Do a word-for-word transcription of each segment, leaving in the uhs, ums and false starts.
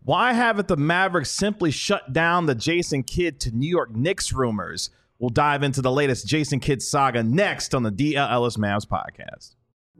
Why haven't the Mavericks simply shut down the Jason Kidd to New York Knicks rumors? We'll dive into the latest Jason Kidd saga next on the D L Ellis Mavs podcast.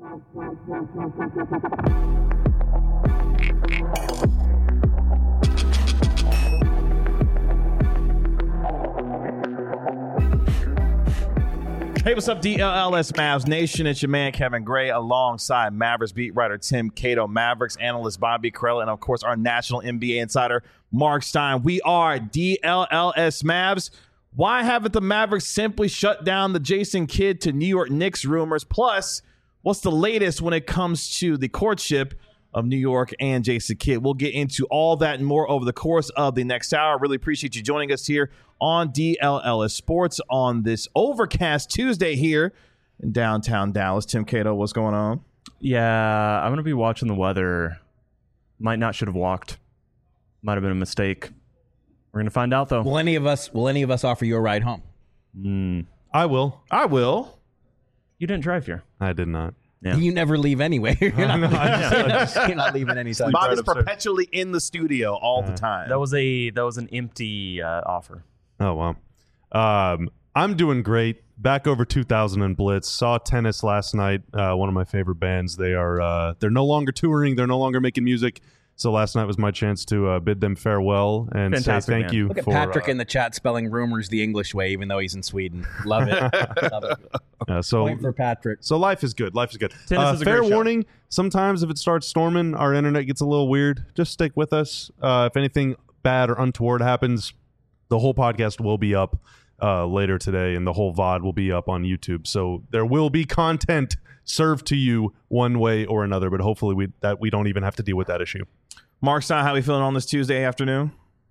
Hey, what's up, D L L S Mavs Nation? It's your man, Kevin Gray, alongside Mavericks beat writer Tim Cato, Mavericks analyst Bobby Karalla, and, of course, our national N B A insider, Mark Stein. We are D L L S Mavs. Why haven't the Mavericks simply shut down the Jason Kidd to New York Knicks rumors? Plus, what's the latest when it comes to the courtship of New York and Jason Kidd? We'll get into all that and more over the course of the next hour. Really appreciate you joining us here on D L L S Sports on this overcast Tuesday here in downtown Dallas. Tim Cato, what's going on? Yeah, I'm going to be watching the weather. Might not should have walked. Might have been a mistake. We're going to find out, though. Will any of us will any of us offer you a ride home? Mm. I will. I will. You didn't drive here. I did not. Yeah. You never leave anyway. You're not, No, I you're not leaving anytime. Bob is right upstairs. perpetually in the studio all the Uh, time. That was a that was an empty uh, offer. Oh, wow. Um, I'm doing great. Back over two thousand in Blitz. Saw Tennis last night. Uh, one of my favorite bands. They are uh, they're no longer touring. They're no longer making music. So last night was my chance to uh, bid them farewell and Fantastic say thank band. you. Look at for, Patrick uh, in the chat spelling rumors the English way, even though he's in Sweden. Love it. Love it. uh, so Point for Patrick. So life is good. Life is good. Tennis Uh, is a fair great show. warning, sometimes if it starts storming, our internet gets a little weird. Just stick with us. Uh, if anything bad or untoward happens, the whole podcast will be up uh, later today, and the whole V O D will be up on YouTube. So there will be content served to you one way or another, but hopefully we that we don't even have to deal with that issue. Mark Stein, how are we feeling on this Tuesday afternoon?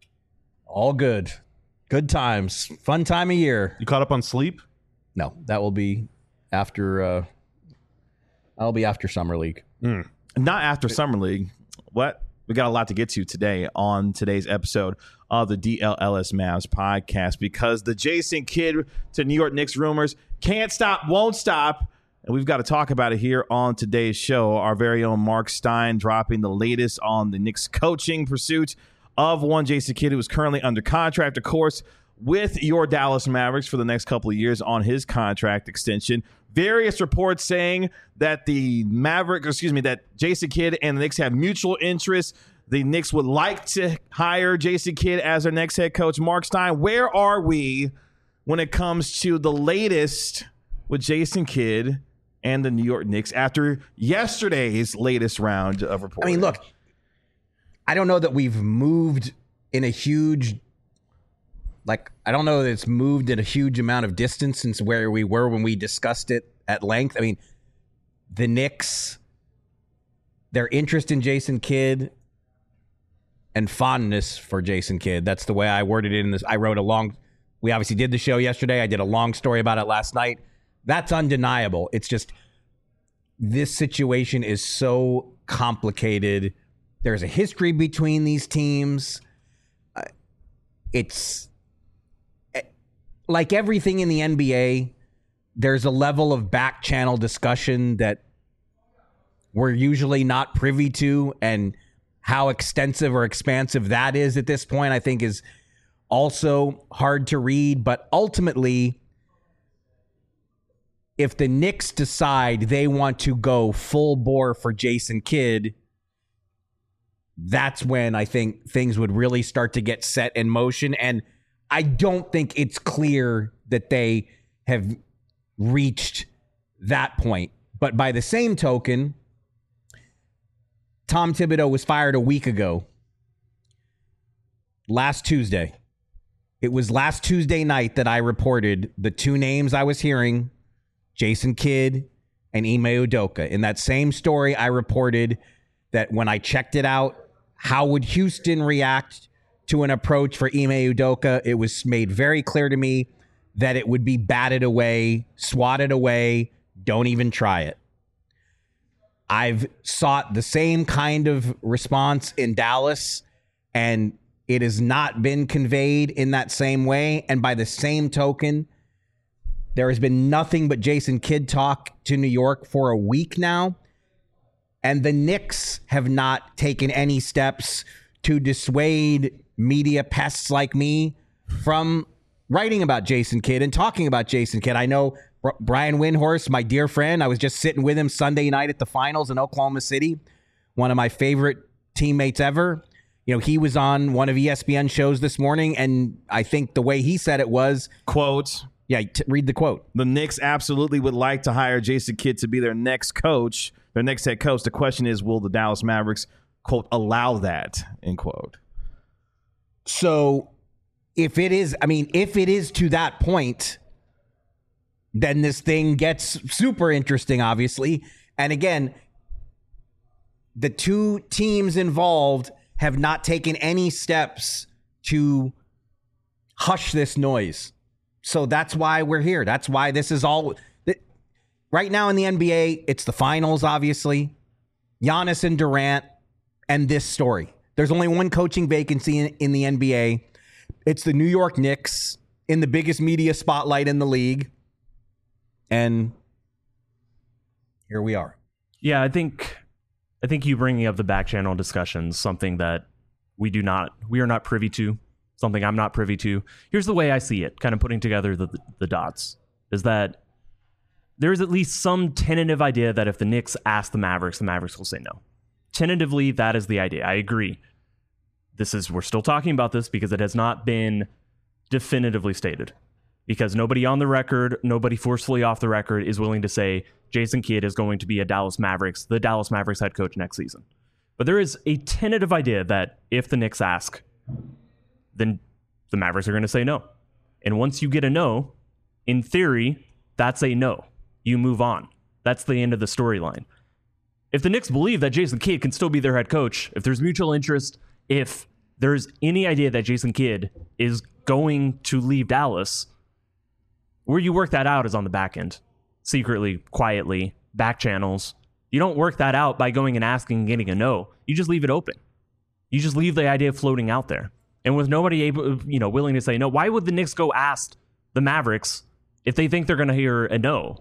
All good. Good times. Fun time of year. You caught up on sleep? No, that will be after uh I'll be after Summer League. Mm. Not after Summer League. What? We got a lot to get to today on today's episode of the D L L S Mavs podcast because the Jason Kidd to New York Knicks rumors can't stop, won't stop. And we've got to talk about it here on today's show. Our very own Mark Stein dropping the latest on the Knicks coaching pursuit of one Jason Kidd, who is currently under contract, of course, with your Dallas Mavericks for the next couple of years on his contract extension. Various reports saying that the Mavericks, excuse me, that Jason Kidd and the Knicks have mutual interests. The Knicks would like to hire Jason Kidd as their next head coach. Mark Stein, where are we when it comes to the latest with Jason Kidd and the New York Knicks after yesterday's latest round of reporting? I mean, look, I don't know that we've moved in a huge, like, I don't know that it's moved in a huge amount of distance since where we were when we discussed it at length. I mean, the Knicks, their interest in Jason Kidd and fondness for Jason Kidd, that's the way I worded it in this. I wrote a long, we obviously did the show yesterday. I did a long story about it last night. That's undeniable. It's just this situation is so complicated. There's a history between these teams. Uh, it's like everything in the N B A. There's a level of back channel discussion that we're usually not privy to, and how extensive or expansive that is at this point, I think, is also hard to read. But ultimately, if the Knicks decide they want to go full bore for Jason Kidd, that's when I think things would really start to get set in motion. And I don't think it's clear that they have reached that point. But by the same token, Tom Thibodeau was fired a week ago, last Tuesday. It was last Tuesday night that I reported the two names I was hearing, Jason Kidd and Ime Udoka. In that same story, I reported that when I checked it out, how would Houston react to an approach for Ime Udoka? It was made very clear to me that it would be batted away, swatted away, don't even try it. I've sought the same kind of response in Dallas, and it has not been conveyed in that same way. And by the same token, there has been nothing but Jason Kidd talk to New York for a week now. And the Knicks have not taken any steps to dissuade media pests like me from writing about Jason Kidd and talking about Jason Kidd. I know Brian Windhorst, my dear friend, I was just sitting with him Sunday night at the finals in Oklahoma City, one of my favorite teammates ever. You know, he was on one of E S P N shows this morning, and I think the way he said it was, quote, yeah, t- read the quote. The Knicks absolutely would like to hire Jason Kidd to be their next coach, their next head coach. The question is, will the Dallas Mavericks, quote, allow that, end quote. So if it is, I mean, if it is to that point, then this thing gets super interesting, obviously. And again, the two teams involved have not taken any steps to hush this noise. So that's why we're here. That's why this is all. Right now in the N B A, it's the finals, obviously. Giannis and Durant and this story. There's only one coaching vacancy in, in the N B A. It's the New York Knicks in the biggest media spotlight in the league. And here we are. Yeah, I think I think you bringing up the back channel discussions, something that we do not, we are not privy to, something I'm not privy to. Here's the way I see it, kind of putting together the, the dots, is that there is at least some tentative idea that if the Knicks ask the Mavericks, the Mavericks will say no. Tentatively, that is the idea. I agree. This is, we're still talking about this because it has not been definitively stated. Because nobody on the record, nobody forcefully off the record is willing to say Jason Kidd is going to be a Dallas Mavericks, the Dallas Mavericks head coach next season. But there is a tentative idea that if the Knicks ask, then the Mavericks are going to say no. And once you get a no, in theory, that's a no. You move on. That's the end of the storyline. If the Knicks believe that Jason Kidd can still be their head coach, if there's mutual interest, if there's any idea that Jason Kidd is going to leave Dallas, where you work that out is on the back end, secretly, quietly, back channels. You don't work that out by going and asking and getting a no. You just leave it open. You just leave the idea floating out there. And with nobody able, you know, willing to say no, why would the Knicks go ask the Mavericks if they think they're going to hear a no?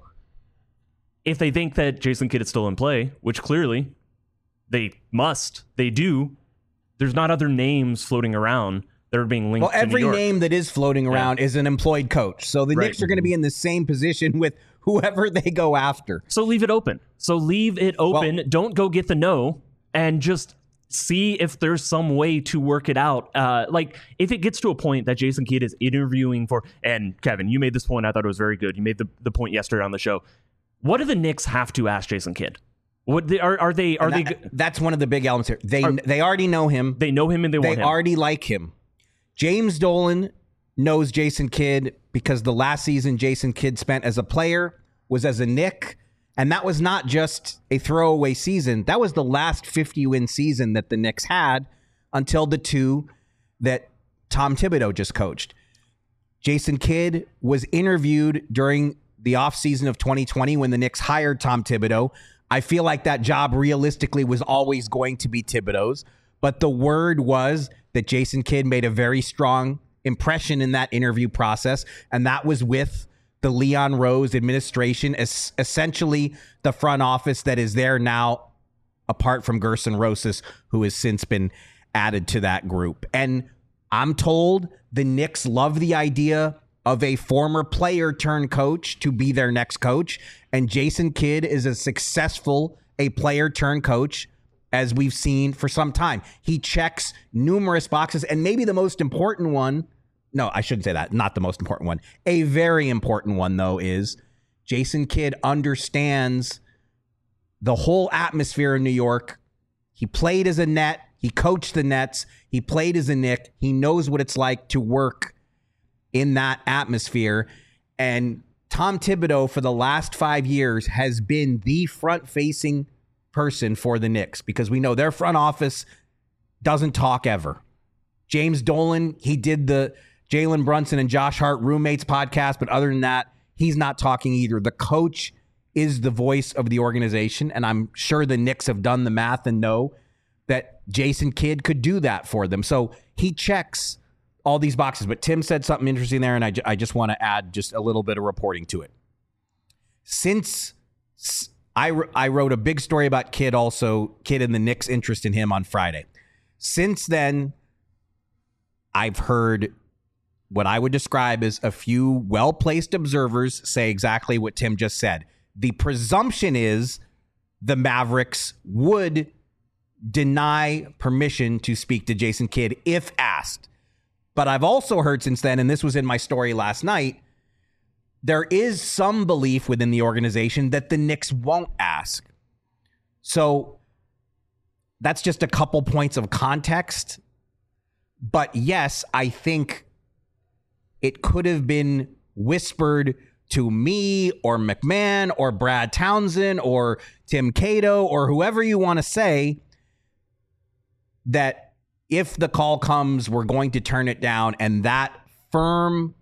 If they think that Jason Kidd is still in play, which clearly they must, they do, there's not other names floating around that are being linked well, to every New York. name that is floating around yeah. is an employed coach. So the right. Knicks are going to be in the same position with whoever they go after. So leave it open. So leave it open. Well, don't go get the no and just see if there's some way to work it out. Uh, like if it gets to a point that Jason Kidd is interviewing for, and Kevin, you made this point. I thought it was very good. You made the, the point yesterday on the show. What do the Knicks have to ask Jason Kidd? What they, are are they are that, they? That's one of the big elements here. They are, they already know him. They know him and they, they want him. They already like him. James Dolan knows Jason Kidd because the last season Jason Kidd spent as a player was as a Knick, and that was not just a throwaway season. That was the last fifty-win season that the Knicks had until the two that Tom Thibodeau just coached. Jason Kidd was interviewed during the offseason of twenty twenty when the Knicks hired Tom Thibodeau. I feel like that job realistically was always going to be Thibodeau's, but the word was that Jason Kidd made a very strong impression in that interview process, and that was with the Leon Rose administration, as essentially the front office that is there now, apart from Gerson Rosas, who has since been added to that group. And I'm told the Knicks love the idea of a former player turned coach to be their next coach. And Jason Kidd is as successful a player turned coach as we've seen for some time. He checks numerous boxes, and maybe the most important one, no, I shouldn't say that, not the most important one. A very important one, though, is Jason Kidd understands the whole atmosphere in New York. He played as a Net. He coached the Nets. He played as a Knick. He knows what it's like to work in that atmosphere. And Tom Thibodeau, for the last five years, has been the front-facing person for the Knicks because we know their front office doesn't talk ever. James Dolan, he did the Jalen Brunson and Josh Hart roommates podcast, but other than that, he's not talking either. The coach is the voice of the organization, and I'm sure the Knicks have done the math and know that Jason Kidd could do that for them. So he checks all these boxes. But Tim said something interesting there, and I, I just want to add just a little bit of reporting to it. Since I, I wrote a big story about Kidd also, Kidd and the Knicks' interest in him on Friday. Since then, I've heard what I would describe as a few well-placed observers say exactly what Tim just said. The presumption is the Mavericks would deny permission to speak to Jason Kidd if asked. But I've also heard since then, and this was in my story last night, there is some belief within the organization that the Knicks won't ask. So that's just a couple points of context. But yes, I think it could have been whispered to me or McMahon or Brad Townsend or Tim Cato or whoever you want to say that if the call comes, we're going to turn it down. And that firm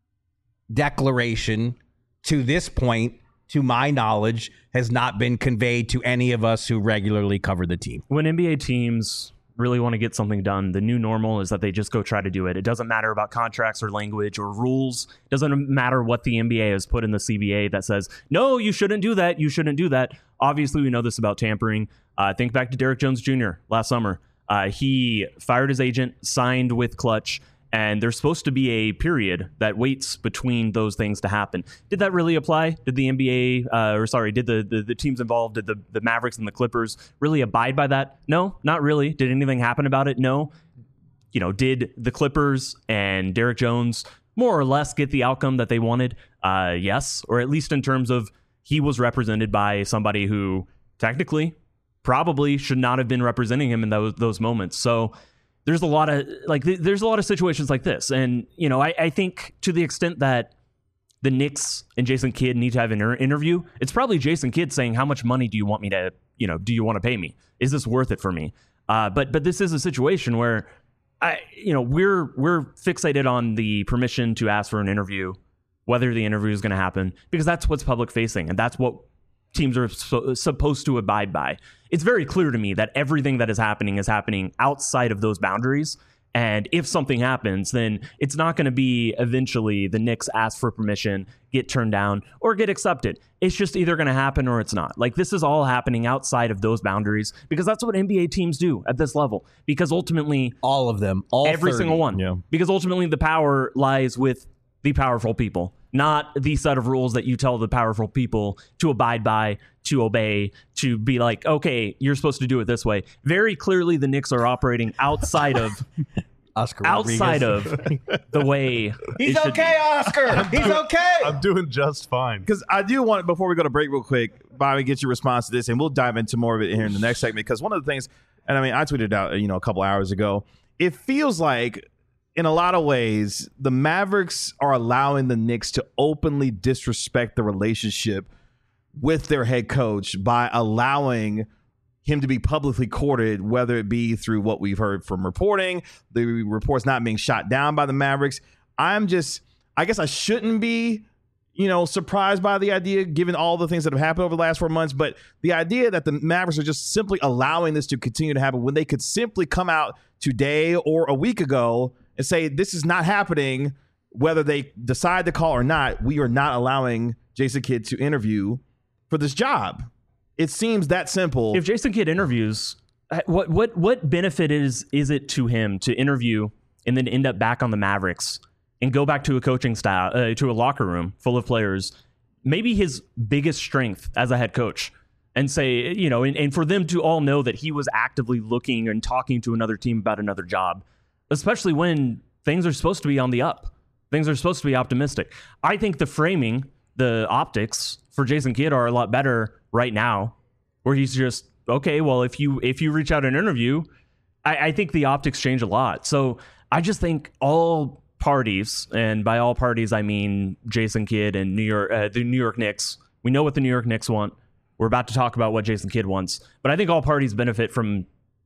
declaration to this point, to my knowledge, has not been conveyed to any of us who regularly cover the team. When N B A teams really want to get something done, the new normal is that they just go try to do it. It doesn't matter about contracts or language or rules. It doesn't matter what the N B A has put in the C B A that says, no, you shouldn't do that. You shouldn't do that. Obviously, we know this about tampering. Uh, think back to Derrick Jones Junior last summer. Uh, he fired his agent, signed with Clutch, and there's supposed to be a period that waits between those things to happen. Did that really apply? Did the N B A, uh, or sorry, did the, the, the teams involved, did the, the Mavericks and the Clippers really abide by that? No, not really. Did anything happen about it? No. You know, did the Clippers and Derrick Jones more or less get the outcome that they wanted? Uh, yes, or at least in terms of he was represented by somebody who technically probably should not have been representing him in those those moments. So there's a lot of like th- there's a lot of situations like this, and you know I, I think to the extent that the Knicks and Jason Kidd need to have an inter- interview, it's probably Jason Kidd saying, how much money do you want me to, you know, do you want to pay me? Is this worth it for me? Uh, but but this is a situation where I you know we're we're fixated on the permission to ask for an interview, whether the interview is going to happen, because that's what's public facing and that's what teams are so, supposed to abide by. It's very clear to me that everything that is happening is happening outside of those boundaries. And if something happens, then it's not going to be eventually the Knicks ask for permission, get turned down, or get accepted. It's just either going to happen or it's not. Like, this is all happening outside of those boundaries because that's what N B A teams do at this level. Because ultimately, all of them, all every thirty. single one. Yeah. Because ultimately, the power lies with the powerful people, not the set of rules that you tell the powerful people to abide by, to obey, to be like, okay, you're supposed to do it this way. Very clearly, the Knicks are operating outside of Oscar outside of the way. He's it should okay, be. Oscar. He's okay. I'm doing just fine. Because I do want, before we go to break real quick, Bobby, get your response to this, and we'll dive into more of it here in the next segment. Because one of the things, and I mean, I tweeted out, you know, a couple hours ago, it feels like, in a lot of ways, the Mavericks are allowing the Knicks to openly disrespect the relationship with their head coach by allowing him to be publicly courted, whether it be through what we've heard from reporting, the reports not being shot down by the Mavericks. I'm just, I guess I shouldn't be, you know, surprised by the idea, given all the things that have happened over the last four months. But the idea that the Mavericks are just simply allowing this to continue to happen when they could simply come out today or a week ago and say, this is not happening, whether they decide to call or not, we are not allowing Jason Kidd to interview for this job. It seems that simple. If Jason Kidd interviews, what what what benefit is is it to him to interview and then end up back on the Mavericks and go back to a coaching style, uh, to a locker room full of players, maybe his biggest strength as a head coach, and say, you know, and, and for them to all know that he was actively looking and talking to another team about another job, especially when things are supposed to be on the up. Things are supposed to be optimistic. I think the framing, the optics for Jason Kidd are a lot better right now, where he's just, okay, well, if you if you reach out an interview, I, I think the optics change a lot. So I just think all parties, and by all parties, I mean Jason Kidd and New York, uh, the New York Knicks. We know what the New York Knicks want. We're about to talk about what Jason Kidd wants. But I think all parties benefit from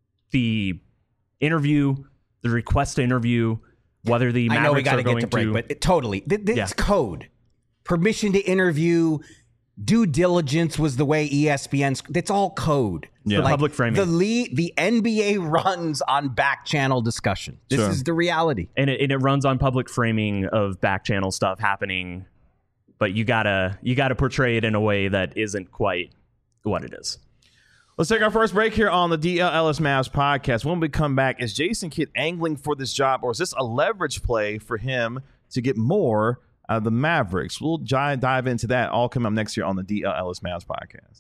the interview, the request to interview, whether the Mavericks I know we got to get to break, to, but it, totally. Th- this Yeah. code. Permission to interview, due diligence was the way E S P N's. That's all code. Yeah. The public framing. The lead, the N B A runs on back channel discussion. This Sure. is the reality. and it, and it runs on public framing of back channel stuff happening, but you gotta you gotta portray it in a way that isn't quite what it is. Let's take our first break here on the D L L S Mavs podcast. When we come back, is Jason Kidd angling for this job, or is this a leverage play for him to get more out of the Mavericks? We'll dive into that all coming up next year on the D L L S Mavs podcast.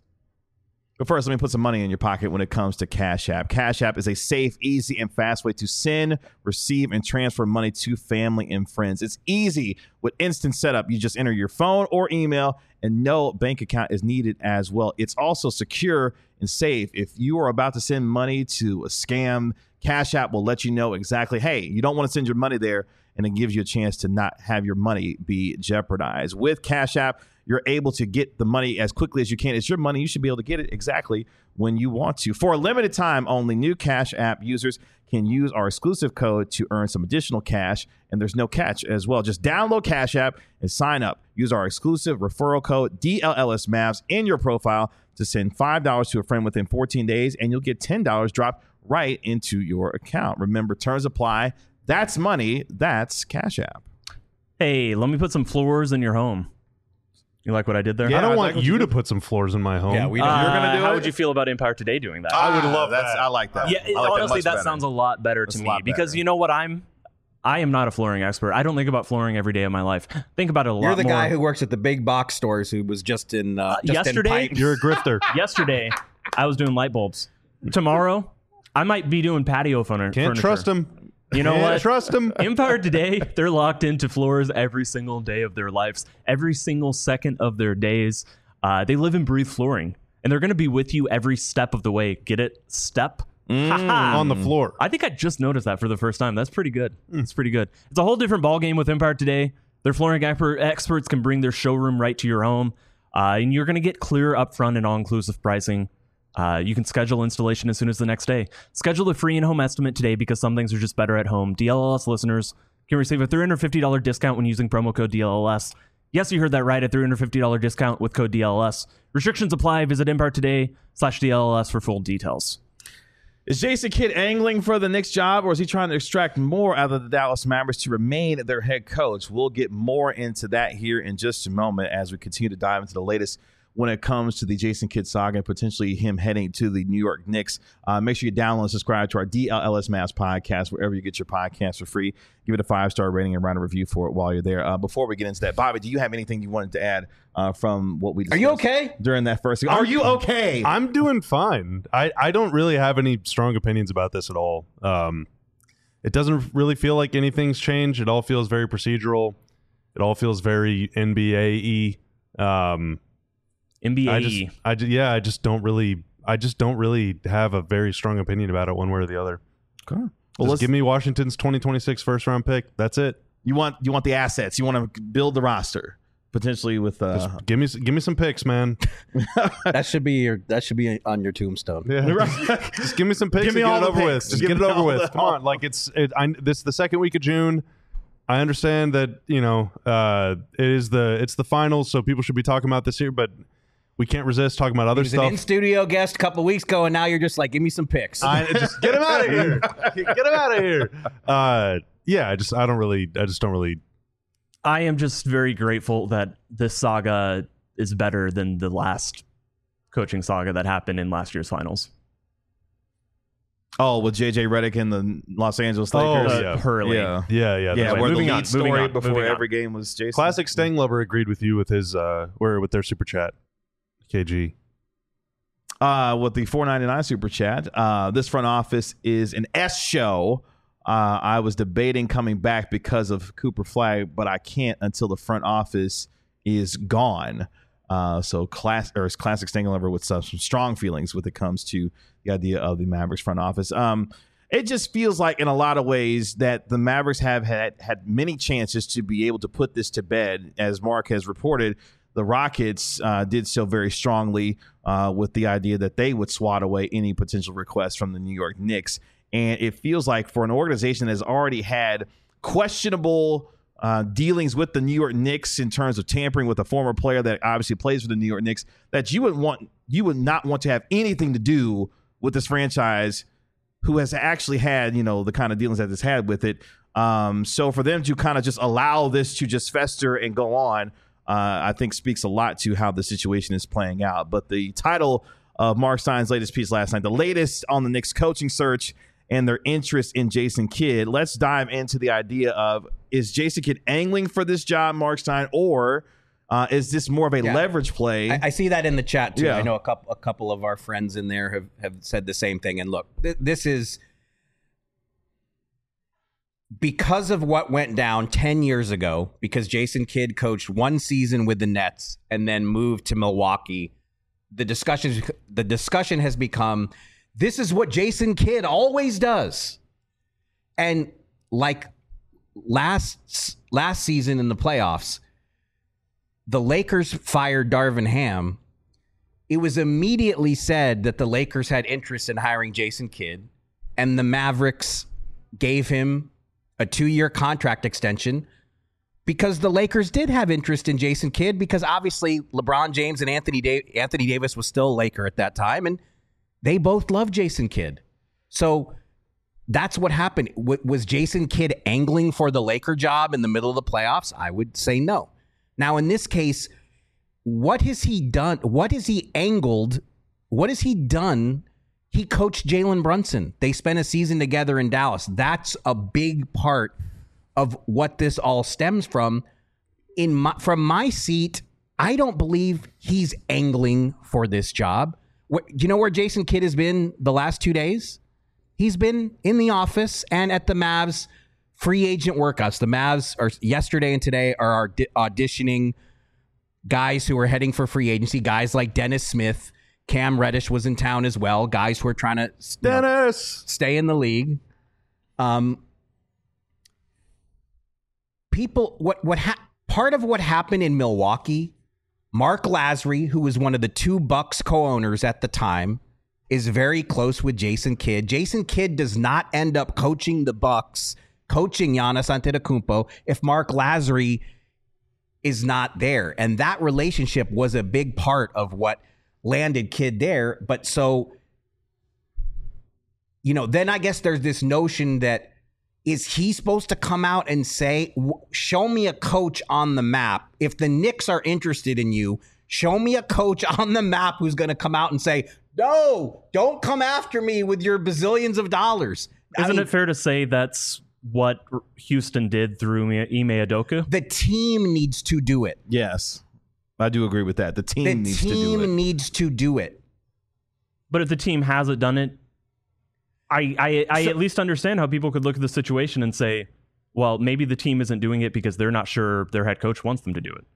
But first, let me put some money in your pocket when it comes to Cash App. Cash App is a safe, easy, and fast way to send, receive, and transfer money to family and friends. It's easy with instant setup. You just enter your phone or email, and no bank account is needed as well. It's also secure and safe. If you are about to send money to a scam, Cash App will let you know exactly, hey, you don't want to send your money there, and it gives you a chance to not have your money be jeopardized. With Cash App, you're able to get the money as quickly as you can. It's your money. You should be able to get it exactly when you want to. For a limited time, only new Cash App users can use our exclusive code to earn some additional cash, and there's no catch as well. Just download Cash App and sign up. Use our exclusive referral code D L L S Mavs in your profile to send five dollars to a friend within fourteen days, and you'll get ten dollars dropped right into your account. Remember, terms apply. That's money. That's Cash App. Hey, let me put some floors in your home. You like what I did there? I don't I want like you you to did. put some floors in my home. Yeah, we don't. Uh, You're gonna do how it? would you feel about Empire Today doing that? I would love that's, that. I like that. yeah, it- I like honestly, much that better. sounds a lot better That's to a me lot because better. you know what? I'm I am not a flooring expert. I don't think about flooring every day of my life. Think about it a lot You're the more. guy who works at the big box stores who was just in uh, just yesterday? In pipes. You're a grifter. Yesterday, I was doing light bulbs. Tomorrow, I might be doing patio furniture. Can't trust him. You know Can't what? trust him. Empire Today, they're locked into floors every single day of their lives, every single second of their days. Uh, they live and breathe flooring, and they're going to be with you every step of the way. Get it? Step? Ha-ha. On the floor. I think I just noticed that for the first time. That's pretty good. It's pretty good. It's a whole different ballgame with Empire Today. Their flooring expert, experts can bring their showroom right to your home, uh, and you're going to get clear upfront and all-inclusive pricing. Uh, you can schedule installation as soon as the next day. Schedule a free in-home estimate today because some things are just better at home. D L L S listeners can receive a three hundred fifty dollars discount when using promo code D L L S. Yes, you heard that right, a three hundred fifty dollars discount with code D L L S. Restrictions apply. Visit Empire Today slash D L L S for full details. Is Jason Kidd angling for the Knicks job, or is he trying to extract more out of the Dallas Mavericks to remain their head coach? We'll get more into that here in just a moment as we continue to dive into the latest when it comes to the Jason Kidd saga and potentially him heading to the New York Knicks. Uh, make sure you download and subscribe to our D L L S Mavs podcast wherever you get your podcast for free. Give it a five-star rating and write a review for it while you're there. Uh, before we get into that, Bobby, do you have anything you wanted to add uh, from what we discussed? Are you okay? During that first Are you okay? I'm doing fine. I, I don't really have any strong opinions about this at all. Um, it doesn't really feel like anything's changed. It all feels very procedural. It all feels very N B A-y. Um, N B A. I just, I just, yeah, I just don't really, I just don't really have a very strong opinion about it one way or the other. Okay. Well, Just let's give me Washington's twenty twenty-six first round pick. That's it. You want you want the assets. You want to build the roster potentially with. Uh, Just give me, give me some picks, man. That should be your that should be on your tombstone. Yeah. Just give me some picks Give me and all get it the over picks. with. Just Give get it me over all with. the- Come on, like it's it, I, this the second week of June. I understand that you know uh, it is the it's the finals, so people should be talking about this here, but we can't resist talking about other He was an stuff. in studio guest a couple weeks ago, and now you're just like, give me some picks. I, just get him out of here. Get him out of here. Uh, yeah, I just I don't really I just don't really. I am just very grateful that this saga is better than the last coaching saga that happened in last year's finals. oh, with J J Redick and the Los Angeles Oh, Lakers. Uh, yeah. Hurley. yeah. Yeah, yeah. Yeah, that's Anyway, where the moving lead on, story moving on, before moving on. every game was Jason. Classic Stang Lover agreed with you with his uh, where with their super chat. K G. Uh, with the four ninety-nine super chat. Uh, this front office is an S show. Uh, I was debating coming back because of Cooper Flag, but I can't until the front office is gone. Uh, so class or is classic Stang Lover with some, some strong feelings when it comes to the idea of the Mavericks front office. Um, it just feels like in a lot of ways that the Mavericks have had had many chances to be able to put this to bed. As Mark has reported, the Rockets uh, did so very strongly uh, with the idea that they would swat away any potential requests from the New York Knicks. And it feels like for an organization that has already had questionable uh, dealings with the New York Knicks in terms of tampering with a former player that obviously plays for the New York Knicks, that you would want you would not want to have anything to do with this franchise who has actually had, you know, the kind of dealings that it's had with it. Um, so for them to kind of just allow this to just fester and go on, uh, I think speaks a lot to how the situation is playing out. But the title of Mark Stein's latest piece last night, the latest on the Knicks coaching search and their interest in Jason Kidd. Let's dive into the idea of, is Jason Kidd angling for this job, Mark Stein, or uh, is this more of a Yeah. leverage play? I, I see that in the chat too. Yeah. I know a couple a couple of our friends in there have, have said the same thing. And look, th- this is because of what went down ten years ago, because Jason Kidd coached one season with the Nets and then moved to Milwaukee. The discussion the discussion has become, this is what Jason Kidd always does. And like last last season in the playoffs, the Lakers fired Darvin Ham. It was immediately said that the Lakers had interest in hiring Jason Kidd, and the Mavericks gave him a two-year contract extension because the Lakers did have interest in Jason Kidd, because obviously LeBron James and Anthony da- Anthony Davis was still a Laker at that time, and they both loved Jason Kidd. So that's what happened. W- was Jason Kidd angling for the Laker job in the middle of the playoffs? I would say no. Now, in this case, what has he done? What has he angled? What has he done? He coached Jalen Brunson. They spent a season together in Dallas. That's a big part of what this all stems from. In my, from my seat, I don't believe he's angling for this job. What, do you know where Jason Kidd has been the last two days? He's been in the office and at the Mavs free agent workouts. The Mavs are yesterday and today are auditioning guys who are heading for free agency. Guys like Dennis Smith, Cam Reddish was in town as well. Guys who are trying to you know, Dennis stay in the league. Um, people, what what ha- part of what happened in Milwaukee? Mark Lasry, who was one of the two Bucks co-owners at the time, is very close with Jason Kidd. Jason Kidd does not end up coaching the Bucks, coaching Giannis Antetokounmpo, if Mark Lasry is not there. And that relationship was a big part of what landed Kidd there. But so, you know, then I guess there's this notion that, is he supposed to come out and say, show me a coach on the map? If the Knicks are interested in you, show me a coach on the map who's going to come out and say, no, don't come after me with your bazillions of dollars. Isn't I mean, it fair to say that's what Houston did through Ime Udoka? the team needs to do it. Yes, I do agree with that. The team The needs to do team it. needs to do it. But if the team hasn't done it, I I, I So- at least understand how people could look at the situation and say, well, maybe the team isn't doing it because they're not sure their head coach wants them to do it.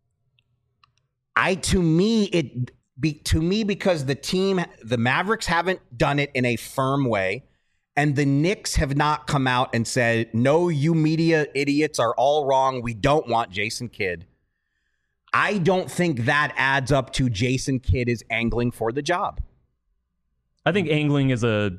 I to me it be to me because the team, the Mavericks haven't done it in a firm way, and the Knicks have not come out and said, no, you media idiots are all wrong. We don't want Jason Kidd. I don't think that adds up to Jason Kidd is angling for the job. I think angling is a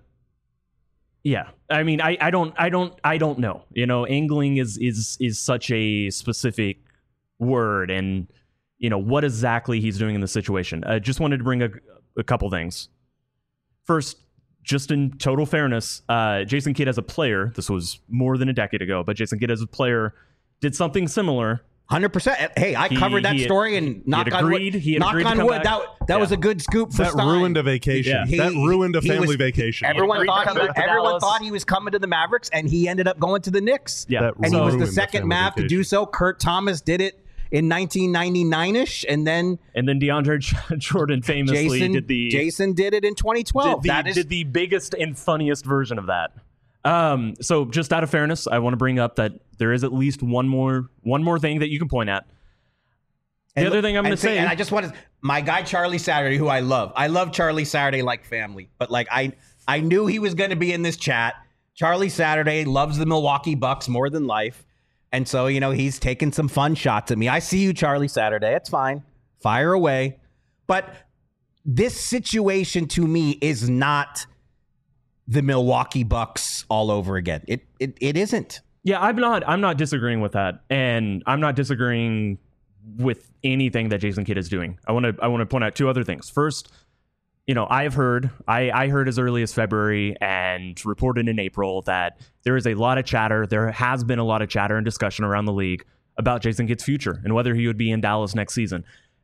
yeah. I mean, I, I don't I don't I don't know. You know, angling is is is such a specific word, and you know what exactly he's doing in the situation. I just wanted to bring a, a couple things. First, just in total fairness, uh, Jason Kidd as a player, this was more than a decade ago, but Jason Kidd as a player did something similar. one hundred percent. Hey, I He- covered that he had- story, and he knock had on wood. agreed- he had knock agreed to on come wood. back. That that Yeah. was a good scoop for that Stein. ruined a vacation. He- that ruined a he family was- vacation. Everyone agreed to thought come he, back to everyone Dallas. thought he was coming to the Mavericks, and he ended up going to the Knicks. Yeah. That And he was ruined the the second family Mav to do vacation. so. Kurt Thomas did it in nineteen ninety-nine-ish, and then And then DeAndre Jordan famously Jason did the Jason did it in twenty twelve. did the, That is did the biggest and funniest version of that. Um, so just out of fairness, I want to bring up that there is at least one more one more thing that you can point at. The And other look- thing I'm going and to say- say, and I just want to, my guy Charlie Saturday, who I love. I love Charlie Saturday like family, but like I, I knew he was going to be in this chat. Charlie Saturday loves the Milwaukee Bucks more than life, and so you know he's taking some fun shots at me. I see you, Charlie Saturday. It's fine, fire away. But this situation to me is not the Milwaukee Bucks all over again. It it it isn't. yeah, I'm not I'm not disagreeing with that, and I'm not disagreeing with anything that Jason Kidd is doing. I want to I want to point out two other things. First, you know, I've heard I, I heard as early as February and reported in April that there is a lot of chatter. There has been a lot of chatter and discussion around the league about Jason Kidd's future and whether he would be in Dallas next season.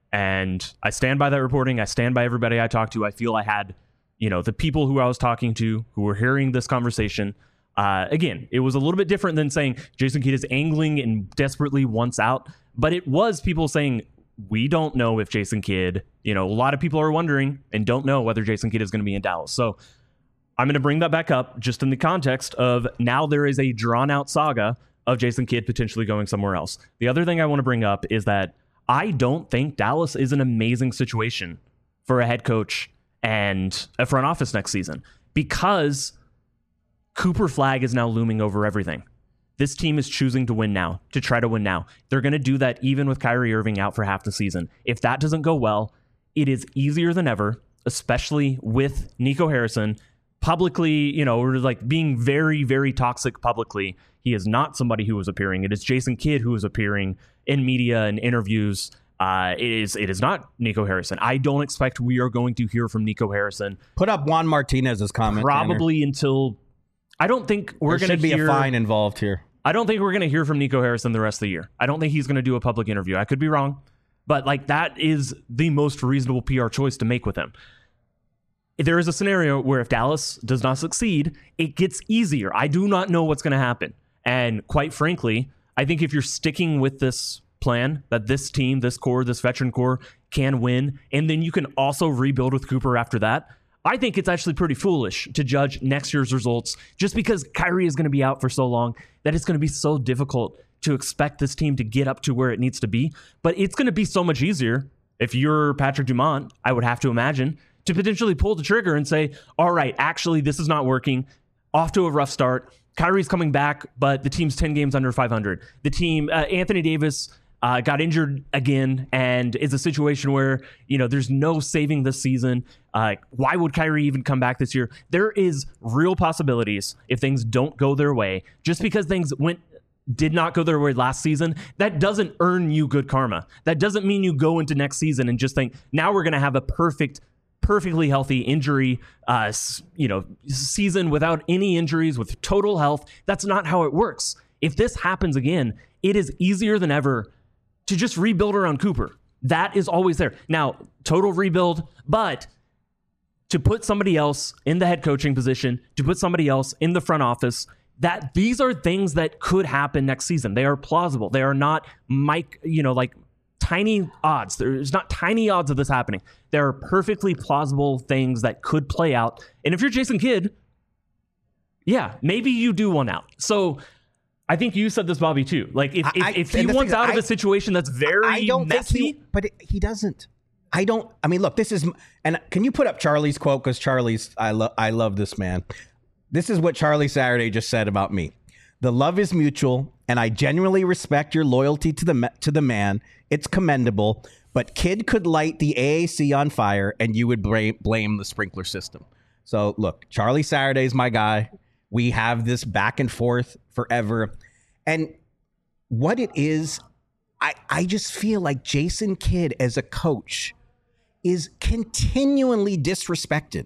And I stand by that reporting. I stand by everybody I talked to. I feel I had, you know, the people who I was talking to who were hearing this conversation. Uh, again, it was a little bit different than saying Jason Kidd is angling and desperately wants out. But it was people saying, we don't know if Jason Kidd, you know, a lot of people are wondering and don't know whether Jason Kidd is going to be in Dallas. So I'm going to bring that back up just in the context of now there is a drawn out saga of Jason Kidd potentially going somewhere else. The other thing I want to bring up is that I don't think Dallas is an amazing situation for a head coach and a front office next season because Cooper Flagg is now looming over everything. This team is choosing to win now, to try to win now. They're going to do that even with Kyrie Irving out for half the season. If that doesn't go well, it is easier than ever, especially with Nico Harrison publicly, you know, or like being very, very toxic publicly. He is not somebody who is appearing. It is Jason Kidd who is appearing in media and interviews. Uh, it is it is not Nico Harrison. I don't expect we are going to hear from Nico Harrison. Put up Juan Martinez's comment. Probably Tanner. Until I don't think we're there going to should be hear, a fine involved here. I don't think we're going to hear from Nico Harrison the rest of the year. I don't think he's going to do a public interview. I could be wrong, but like that is the most reasonable P R choice to make with him. There is a scenario where if Dallas does not succeed, it gets easier. I do not know what's going to happen. And quite frankly, I think if you're sticking with this plan that this team, this core, this veteran core can win, and then you can also rebuild with Cooper after that, I think it's actually pretty foolish to judge next year's results just because Kyrie is going to be out for so long that it's going to be so difficult to expect this team to get up to where it needs to be. But it's going to be so much easier if you're Patrick Dumont, I would have to imagine, to potentially pull the trigger and say, all right, actually, this is not working. Off to a rough start. Kyrie's coming back, but the team's ten games under five hundred. The team, uh, Anthony Davis uh, got injured again and is a situation where, you know, there's no saving this season. Uh, why would Kyrie even come back this year? There is real possibilities if things don't go their way. Just because things went did not go their way last season, that doesn't earn you good karma. That doesn't mean you go into next season and just think, now we're going to have a perfect perfectly healthy injury, uh, you know, season without any injuries, with total health. That's not how it works. If this happens again, it is easier than ever to just rebuild around Cooper. That is always there. Now, total rebuild, but to put somebody else in the head coaching position, to put somebody else in the front office, that these are things that could happen next season. They are plausible. They are not Mike, you know, like tiny odds. There's not tiny odds of this happening. There are perfectly plausible things that could play out. And if you're Jason Kidd, yeah, maybe you do one out. So I think you said this, Bobby, too. Like if, I, if, if he wants out I, of a situation that's very I don't messy. Think he, but it, he doesn't. I don't. I mean, look, this is, and can you put up Charlie's quote? Because Charlie's, I love, I love this man. This is what Charlie Saturday just said about me. The love is mutual, and I genuinely respect your loyalty to the to the man. It's commendable, but Kidd could light the A A C on fire, and you would blame, blame the sprinkler system. So, look, Charlie Saturday's my guy. We have this back and forth forever. And what it is, I, I just feel like Jason Kidd as a coach is continually disrespected.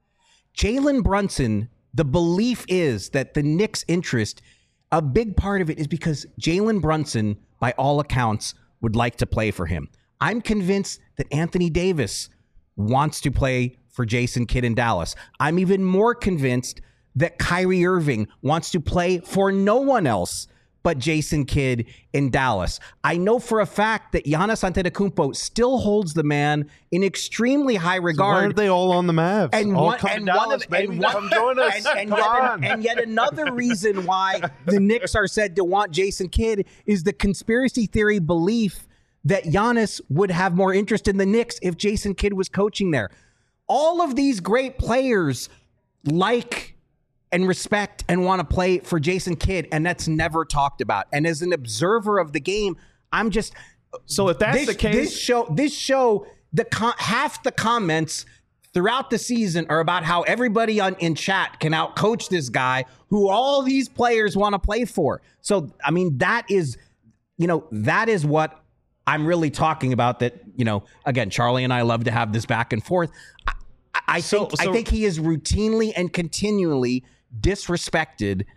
Jalen Brunson, the belief is that the Knicks' interest, a big part of it is because Jalen Brunson, by all accounts, would like to play for him. I'm convinced that Anthony Davis wants to play for Jason Kidd in Dallas. I'm even more convinced that Kyrie Irving wants to play for no one else but Jason Kidd in Dallas. I know for a fact that Giannis Antetokounmpo still holds the man in extremely high regard. So why are they all on the Mavs? And all one, come and to one Dallas, of, baby. and one, Come join us. And, and, Come yet, on. and yet another reason why the Knicks are said to want Jason Kidd is the conspiracy theory belief that Giannis would have more interest in the Knicks if Jason Kidd was coaching there. All of these great players like and respect and want to play for Jason Kidd, and that's never talked about. And as an observer of the game, I'm just so if that's this, the case, this show, this show, the con- half the comments throughout the season are about how everybody on in chat can outcoach this guy who all these players want to play for. So I mean, that is, you know, that is what I'm really talking about. That, you know, again, Charlie and I love to have this back and forth. I, I so, think so, I think he is routinely and continually disrespected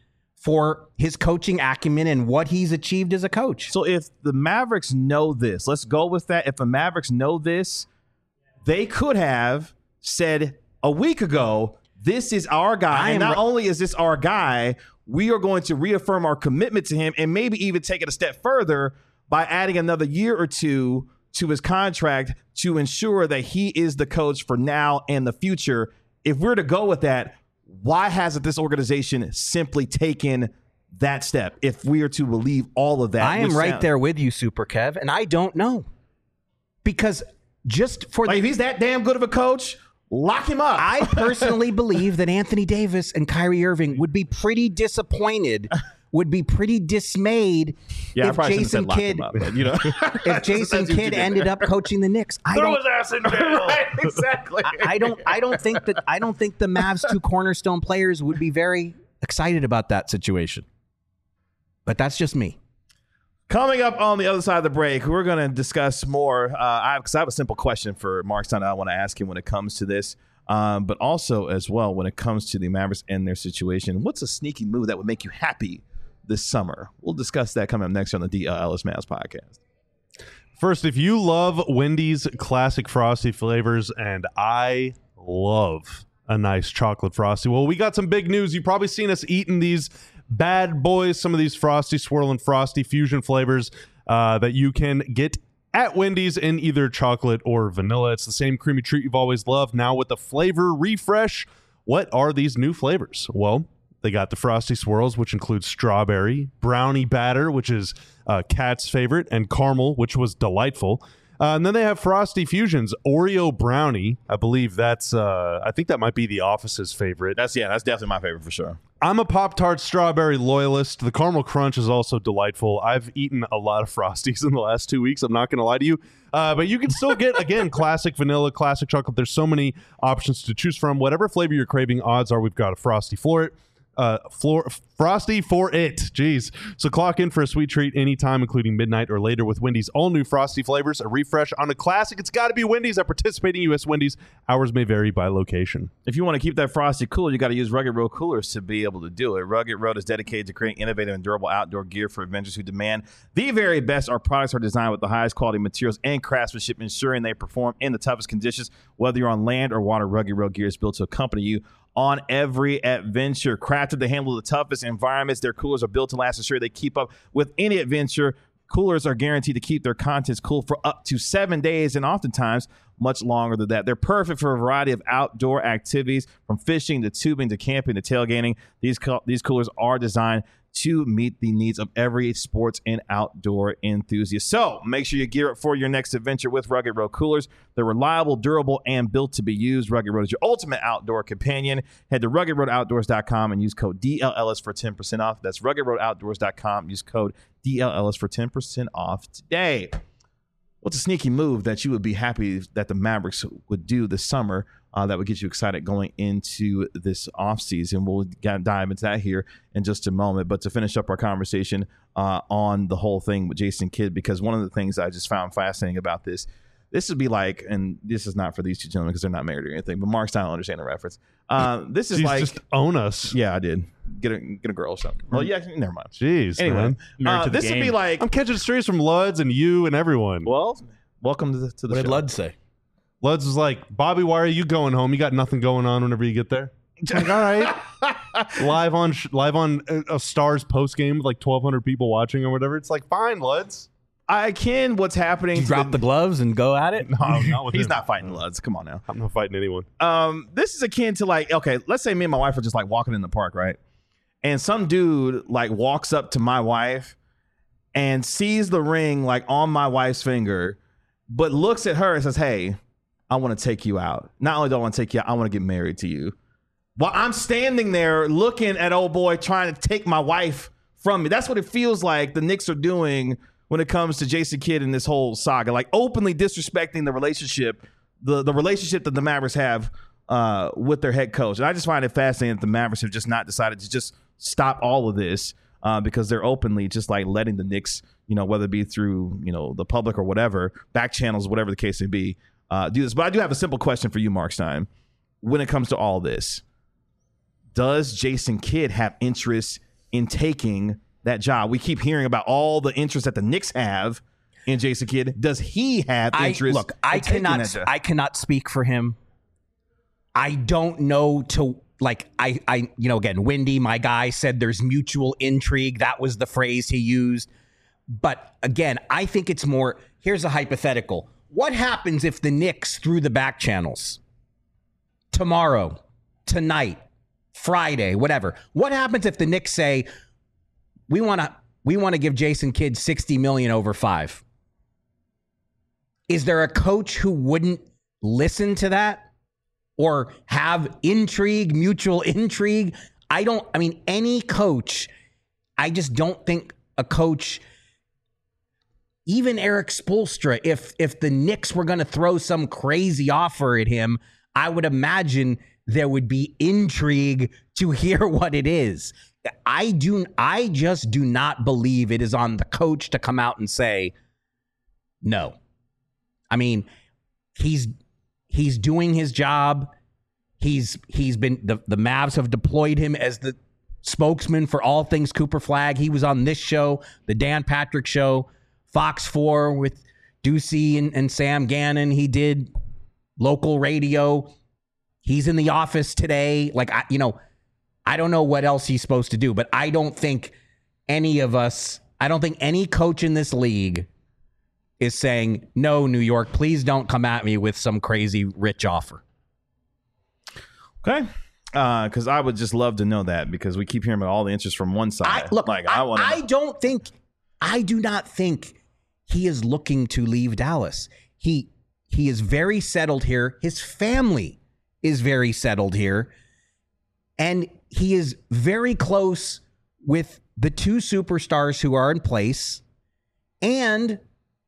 for his coaching acumen and what he's achieved as a coach. So if the Mavericks know this, let's go with that. If the Mavericks know this, they could have said a week ago, this is our guy. And not re- only is this our guy, we are going to reaffirm our commitment to him and maybe even take it a step further by adding another year or two to his contract to ensure that he is the coach for now and the future. If we're to go with that, why hasn't this organization simply taken that step? If we are to believe all of that, I am right sound- there with you, Super Kev, and I don't know. Because just for like the, if he's that damn good of a coach, lock him up. I personally believe that Anthony Davis and Kyrie Irving would be pretty disappointed, would be pretty dismayed yeah, if Jason Kidd, up, but, you know, if Jason Kidd ended up coaching the Knicks. I Throw don't, his ass in jail. Right, exactly. I, I don't. I don't think that. I don't think the Mavs' two cornerstone players would be very excited about that situation. But that's just me. Coming up on the other side of the break, we're going to discuss more. Uh, I, because I have a simple question for Mark Stein I want to ask him when it comes to this, um, but also as well when it comes to the Mavericks and their situation. What's a sneaky move that would make you happy this summer? We'll discuss that coming up next on the D L L S Mavs podcast. First, if you love Wendy's classic Frosty flavors, and I love a nice chocolate Frosty, well, we got some big news. You've probably seen us eating these bad boys, some of these Frosty Swirl and Frosty fusion flavors uh, that you can get at Wendy's in either chocolate or vanilla. It's the same creamy treat you've always loved, now with a flavor refresh. What are these new flavors? Well, they got the Frosty Swirls, which includes strawberry, brownie batter, which is uh, Kat's favorite, and caramel, which was delightful. Uh, and then they have Frosty Fusions, Oreo brownie. I believe that's, uh, I think that might be the office's favorite. That's, yeah, that's definitely my favorite for sure. I'm a Pop-Tart strawberry loyalist. The caramel crunch is also delightful. I've eaten a lot of Frosties in the last two weeks. I'm not going to lie to you. Uh, but you can still get, again, classic vanilla, classic chocolate. There's so many options to choose from. Whatever flavor you're craving, odds are we've got a Frosty for it. Uh, floor, Frosty for it. Jeez. So clock in for a sweet treat anytime, including midnight or later with Wendy's all new Frosty flavors. A refresh on a classic. It's got to be Wendy's at participating U S Wendy's. Hours may vary by location. If you want to keep that Frosty cool, you got to use Rugged Road coolers to be able to do it. Rugged Road is dedicated to creating innovative and durable outdoor gear for adventurers who demand the very best. Our products are designed with the highest quality materials and craftsmanship, ensuring they perform in the toughest conditions. Whether you're on land or water, Rugged Road gear is built to accompany you on every adventure. Crafted to handle the toughest environments, their coolers are built to last, ensure they keep up with any adventure. Coolers are guaranteed to keep their contents cool for up to seven days and oftentimes much longer than that. They're perfect for a variety of outdoor activities, from fishing to tubing to camping to tailgating. These, co- these coolers are designed to meet the needs of every sports and outdoor enthusiast. So make sure you gear up for your next adventure with Rugged Road coolers. They're reliable, durable, and built to be used. Rugged Road is your ultimate outdoor companion. Head to rugged road outdoors dot com and use code D L L S for ten percent off. That's rugged road outdoors dot com. Use code D L L S for ten percent off today. What's a sneaky move that you would be happy that the Mavericks would do this summer uh, that would get you excited going into this offseason? We'll get, dive into that here in just a moment. But to finish up our conversation uh, on the whole thing with Jason Kidd, because one of the things I just found fascinating about this, this would be like, and this is not for these two gentlemen because they're not married or anything, but Mark Stein will understand the reference. Uh, this is Jeez, like, just own us. Yeah, I did. Get a get a girl or something. Well, yeah, never mind. Jeez, Anyway, man. uh, this would be like, I'm catching strays from Luds and you and everyone. well, welcome to the to the What did show. Lud say? Luds was like, Bobby, why are you going home? You got nothing going on whenever you get there. Like, all right. live on sh- live on a, a Stars post game with like twelve hundred people watching or whatever. It's like, fine, Luds. I can. What's happening? You to drop the gloves and go at it? No, not with He's him. not fighting Luds. Come on now. I'm not fighting anyone. Um, this is akin to like, okay, let's say me and my wife are just like walking in the park, right? And some dude like walks up to my wife and sees the ring like on my wife's finger, but looks at her and says, "Hey, I want to take you out. Not only do I want to take you out, I want to get married to you." While I'm standing there looking at old boy trying to take my wife from me. That's what it feels like the Knicks are doing when it comes to Jason Kidd and this whole saga, like openly disrespecting the relationship, the, the relationship that the Mavericks have uh, with their head coach. And I just find it fascinating that the Mavericks have just not decided to just stop all of this uh, because they're openly just like letting the Knicks, you know, whether it be through, you know, the public or whatever, back channels, whatever the case may be, uh, do this. But I do have a simple question for you, Mark Stein. When it comes to all this, does Jason Kidd have interest in taking that job? We keep hearing about all the interest that the Knicks have in Jason Kidd. Does he have interest? I, look, I in taking cannot. that job? I cannot speak for him. I don't know to like. I. I. You know, again, Wendy, my guy, said there's mutual intrigue. That was the phrase he used. But again, I think it's more. Here's a hypothetical. What happens if the Knicks through the back channels tomorrow, tonight, Friday, whatever? What happens if the Knicks say we want to we want to give Jason Kidd sixty million over five? Is there a coach who wouldn't listen to that or have intrigue, mutual intrigue? I don't, I mean, any coach, I just don't think a coach, even Eric Spoelstra, if if the Knicks were going to throw some crazy offer at him, I would imagine there would be intrigue to hear what it is. I do, I just do not believe it is on the coach to come out and say no. I mean, he's he's doing his job. He's he's been the, the Mavs have deployed him as the spokesman for all things Cooper Flagg. He was on this show, the Dan Patrick Show, Fox four with Ducey and, and Sam Gannon. He did local radio. He's in the office today. Like, I, you know, I don't know what else he's supposed to do, but I don't think any of us, I don't think any coach in this league is saying, no, New York, please don't come at me with some crazy rich offer. Okay. Because uh, I would just love to know that, because we keep hearing about all the interest from one side. I, look, like, I, I, wanna I don't think, I do not think he is looking to leave Dallas. He he is very settled here. His family is very settled here. And he is very close with the two superstars who are in place. And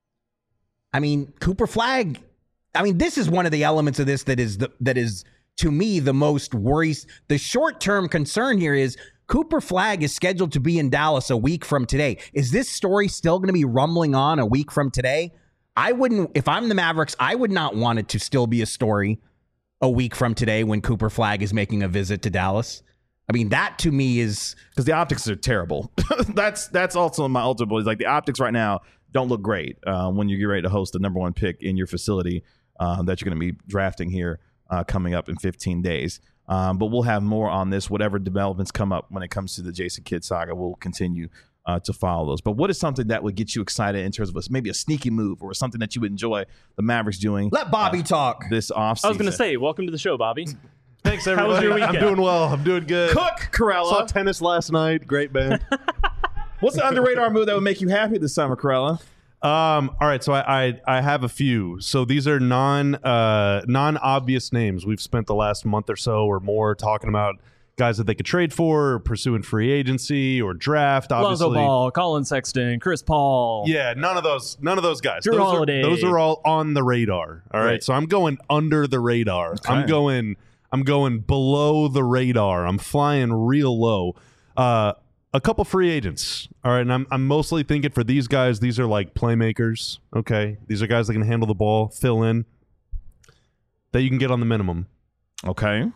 I mean, Cooper Flagg, I mean, this is one of the elements of this that is the, that is to me the most worrisome. The short-term concern here is Cooper Flagg is scheduled to be in Dallas a week from today. Is this story still going to be rumbling on a week from today? I wouldn't, if I'm the Mavericks, I would not want it to still be a story a week from today when Cooper Flagg is making a visit to Dallas. I mean, that to me is because the optics are terrible. that's that's also my ultimate belief. Like, the optics right now don't look great uh, when you get ready to host the number one pick in your facility uh, that you're going to be drafting here uh, coming up in fifteen days. Um, but we'll have more on this. Whatever developments come up when it comes to the Jason Kidd saga, we'll continue uh, to follow those. But what is something that would get you excited in terms of a, maybe a sneaky move or something that you would enjoy the Mavericks doing? Let Bobby uh, talk this offseason. I was going to say, welcome to the show, Bobby. Thanks, How everybody. was your weekend? I'm doing well. I'm doing good. Cook Corella. Saw tennis last night. Great band. What's the under radar move that would make you happy this summer, Corella? Um, all right, so I, I I have a few. So these are non uh non obvious names. We've spent the last month or so or more talking about guys that they could trade for, or pursuing free agency or draft. Obviously, Lonzo Ball, Colin Sexton, Chris Paul. yeah, none of those none of those guys. Drew those Holiday. Are, those are all on the radar. All right, Right. so I'm going under the radar. Okay. I'm going I'm going below the radar. I'm flying real low. Uh. A couple free agents. All right. And I'm, I'm mostly thinking for these guys, these are like playmakers. Okay. These are guys that can handle the ball, fill in, that you can get on the minimum. Okay.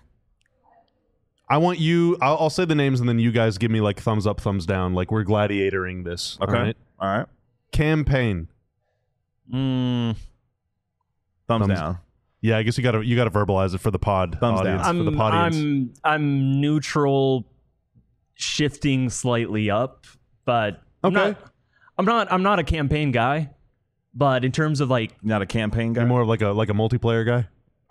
I want you, I'll, I'll say the names and then you guys give me like thumbs up, thumbs down. Like we're gladiatoring this. Okay. All right. All right. Campaign. Mm, Thumbs, Thumbs- down. Yeah. I guess you got to, you got to verbalize it for the pod Thumbs audience. down. For the I'm, pod audience. I'm, I'm neutral, shifting slightly up, but I'm Okay. not, I'm not, I'm not a campaign guy, but in terms of like, Not a campaign guy. You're more of like a, like a multiplayer guy.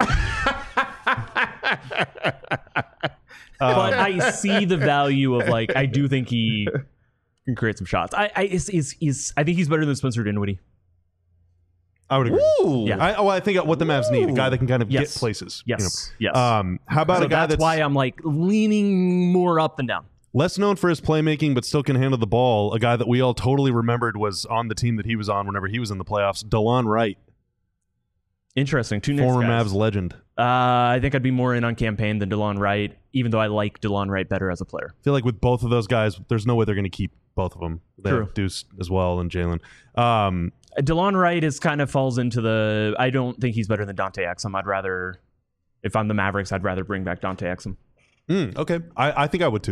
but I see the value of like, I do think he can create some shots. I, I, is, is, is, I think he's better than Spencer Dinwiddie. I would agree. Ooh. Yeah. I, oh, I think what the Mavs need, a guy that can kind of Yes. get places. Yes. You Yes. know. Um, how about so a guy that's that's why I'm like leaning more up than down. less known for his playmaking, but still can handle the ball? A guy that we all totally remembered was on the team that he was on whenever he was in the playoffs. DeLon Wright, Interesting. Two Knicks former guys. Mavs legend. Uh, I think I'd be more in on campaign than DeLon Wright, even though I like DeLon Wright better as a player. I feel like with both of those guys, there's no way they're going to keep both of them. They True. have Deuce as well and Jalen. Um, DeLon Wright is kind of falls into the. I don't think he's better than Dante Exum. I'd rather, if I'm the Mavericks, I'd rather bring back Dante Exum. mm, okay, I, I think I would too.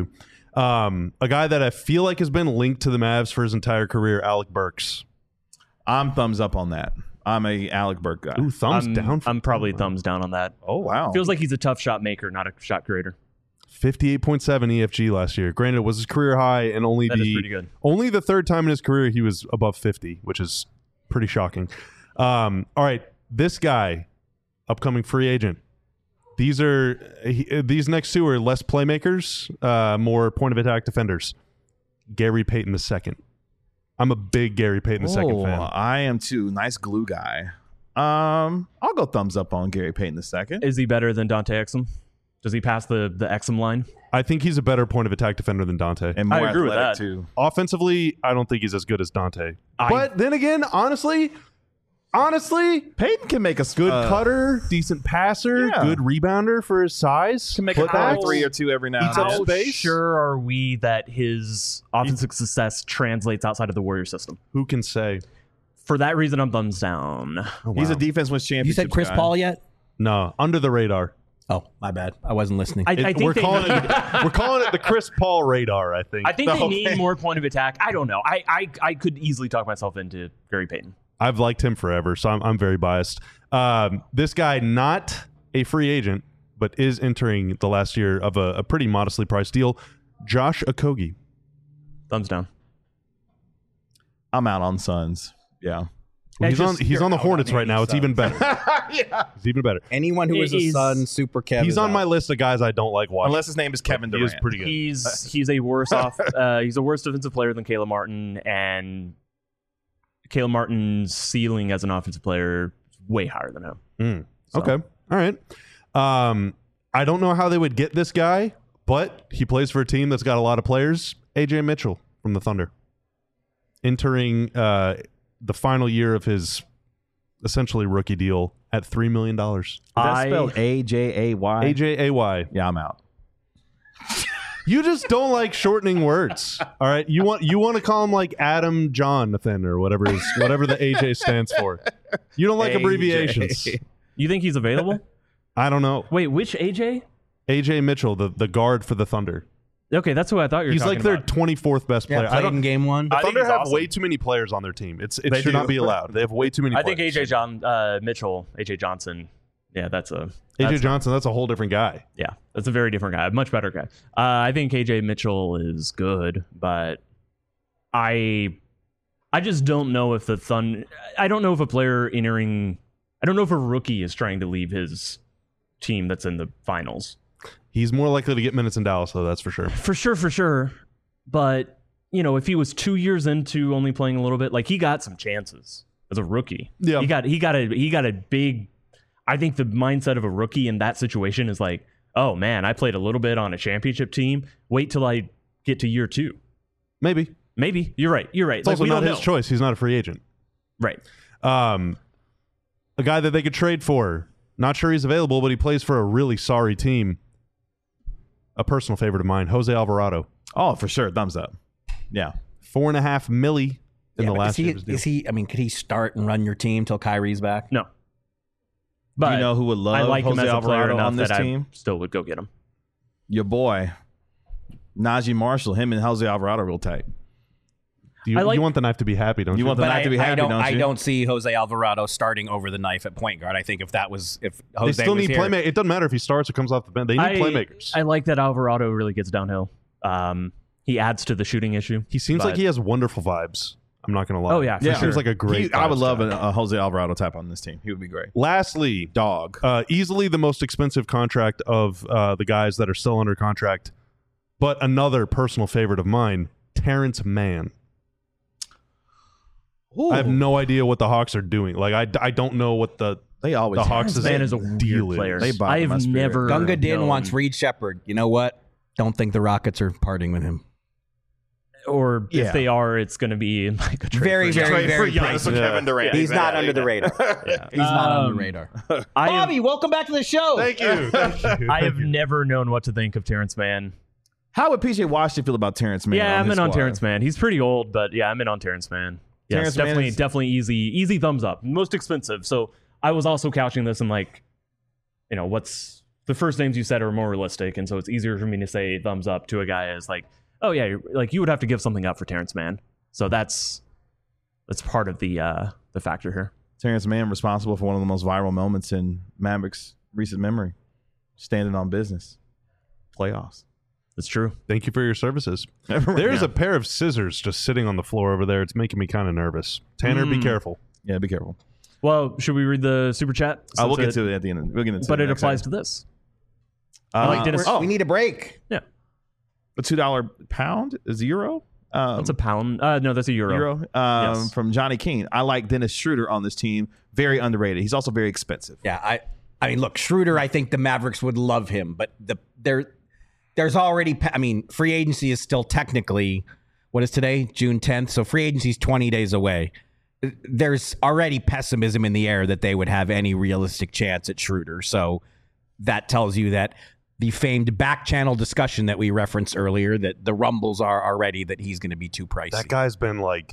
Um, a guy that I feel like has been linked to the Mavs for his entire career, Alec Burks. I'm thumbs up on that. I'm a Alec Burke guy. Ooh, thumbs I'm, down. For I'm probably thumbs down on that. Oh wow. Feels like he's a tough shot maker, not a shot creator. fifty-eight point seven E F G last year. Granted, it was his career high, and only That is the pretty good. only the third time in his career he was above fifty, which is pretty shocking. Um, all right, this guy, upcoming free agent. These are he, these next two are less playmakers, uh, more point of attack defenders. Gary Payton the second. I'm a big Gary Payton the second Oh, fan. I am too. Nice glue guy. Um, I'll go thumbs up on Gary Payton the second. Is he better than Dante Exum? Does he pass the the Exum line? I think he's a better point of attack defender than Dante. And more I agree with athletic that. too. Offensively, I don't think he's as good as Dante. I- but then again, honestly, honestly, Payton can make a good uh, cutter, decent passer, yeah. good rebounder for his size. Can make Put a corner back. three or two every now Eats and up then. How space. sure are we that his offensive success translates outside of the Warrior system? Who can say? For that reason, I'm thumbs down. Oh, He's wow. a defense wins championship. You said Chris guy. Paul yet? No, under the radar. Oh, my bad. I wasn't listening. I, It- I think we're they calling need, it we're calling it the Chris Paul radar. I think. I think they Okay. need more point of attack. I don't know. I, I I could easily talk myself into Gary Payton. I've liked him forever, so I'm, I'm very biased. Um, this guy, not a free agent, but is entering the last year of a, a pretty modestly priced deal. Josh Okogie. Thumbs down. I'm out on Suns. Yeah. Well, he's It's on just- he's on the you're out Hornets on right now. It's any even better. yeah. It's even better. Anyone who is a He's- Sun, Super Kev. He's is on out. my list of guys I don't like watching. Unless his name is Kevin he Durant. is pretty good. He's he's a worse off. Uh, he's a worse defensive player than Caleb Martin, and Caleb Martin's ceiling as an offensive player is way higher than him. Mm. So- Okay. All right. Um, I don't know how they would get this guy, but he plays for a team that's got a lot of players. A J Mitchell from the Thunder. Entering uh, the final year of his essentially rookie deal at three million dollars. Is that I- spelled A J A Y? A J A Y. Yeah, I'm out. You just don't like shortening words. All right. You want you want to call him like Adam Jonathan or whatever is whatever the A J stands for. You don't like A J. abbreviations. You think he's available? I don't know. Wait, which A J? A J Mitchell, the, the guard for the Thunder. Okay, that's who I thought you were He's talking like their about. twenty-fourth best Yeah, player. I played don't in game one. The I think Thunder he's have awesome. way too many players on their team. It's it They should do. not be allowed. They have way too many I players. think A J John uh, Mitchell, A J Johnson. Yeah, that's a A J that's- Johnson, that's a whole different guy. Yeah, that's a very different guy, a much better guy. Uh, I think A J Mitchell is good, but I, I just don't know if the Thun. I don't know if a player entering. I don't know if a rookie is trying to leave his team that's in the finals. He's more likely to get minutes in Dallas, though, that's for sure. For sure, for sure. But you know, if he was two years into only playing a little bit, like he got some chances as a rookie. Yeah. he got he got a he got a big. I think the mindset of a rookie in that situation is like, oh man, I played a little bit on a championship team. Wait till I get to year two. Maybe. Maybe you're right. You're right. It's Like, also we not don't his know. choice. He's not a free agent. Right. Um, a guy that they could trade for. Not sure he's available, but he plays for a really sorry team. A personal favorite of mine, Jose Alvarado. Oh, for sure. Thumbs up. Yeah. Four and a half milli in Yeah, the but last is he, year of his deal. is he? I mean, could he start and run your team till Kyrie's back? No. Do But you know who would love I like Jose him as a player Alvarado enough on this that team? I still would go get him. Your boy, Najee Marshall. Him and Jose Alvarado real tight. you, I like- you want the knife to be happy, don't you? You want the But knife I, to be happy, I don't. don't I you? don't see Jose Alvarado starting over the knife at point guard. I think if that was if they Jose still was need here, playmakers. It doesn't matter if he starts or comes off the bench. They need I, playmakers. I like that Alvarado really gets downhill. Um, he adds to the shooting issue. he seems but- like he has wonderful vibes. I'm not going to lie. Oh, yeah, for he sure. seems like a great. He- I would vibes love guy. a, a Jose Alvarado type on this team. He would be great. Lastly, Dog. uh, easily the most expensive contract of uh, the guys that are still under contract, but another personal favorite of mine, Terrence Mann. I have no idea what the Hawks are doing. Like I, I don't know what the They always the Hawks Terrence is Mann is a weird deal player. is. They bother I my have spirit. never. Gunga Din known- wants Reed Shepard. You know what? Don't think the Rockets are parting with him. or Yeah. if they are, it's going to be like a trade Very, for very, Giannis. very for Giannis pricey. and Kevin Durant. He's not Exactly. under the radar. Yeah. He's not on Um, the radar. I have, Bobby, welcome back to the show. Thank you. Thank you. I have never known what to think of Terrence Mann. How would P J Washington feel about Terrence Mann? yeah, on I'm his in on squad? Terrence Mann. He's pretty old, but yeah, I'm in on Terrence Mann. Yes, Terrence Mann definitely, is- definitely easy, easy thumbs up. Most expensive. So I was also couching this in like, you know, what's the first names you said are more realistic, and so it's easier for me to say thumbs up to a guy as like oh yeah, you're- like you would have to give something up for Terrence Mann. So that's that's part of the uh, the factor here. Terrence Mann responsible for one of the most viral moments in Mavericks' recent memory, standing on business, playoffs. It's true. Thank you for your services. There's Yeah. a pair of scissors just sitting on the floor over there. It's making me kind of nervous. Tanner, be Mm. careful. Yeah, be careful. Well, should we read the super chat? Uh, we'll Since get it- to it at the end. Of, we'll get into But it it next applies segment. to this. Uh, like Dennis- We're- oh, we need a break. Yeah, a two dollar pound is a euro. Um, that's a pound. Uh, no, that's a euro. euro um, Yes. from Johnny Keene. I like Dennis Schroeder on this team. Very underrated. He's also very expensive. Yeah, I I mean, look, Schroeder, I think the Mavericks would love him, but the there there's already pa- I mean, free agency is still technically what is today? June tenth. So free agency is twenty days away. There's already pessimism in the air that they would have any realistic chance at Schroeder. So that tells you that the famed back channel discussion that we referenced earlier, that the rumbles are already that he's going to be too pricey. That guy's been like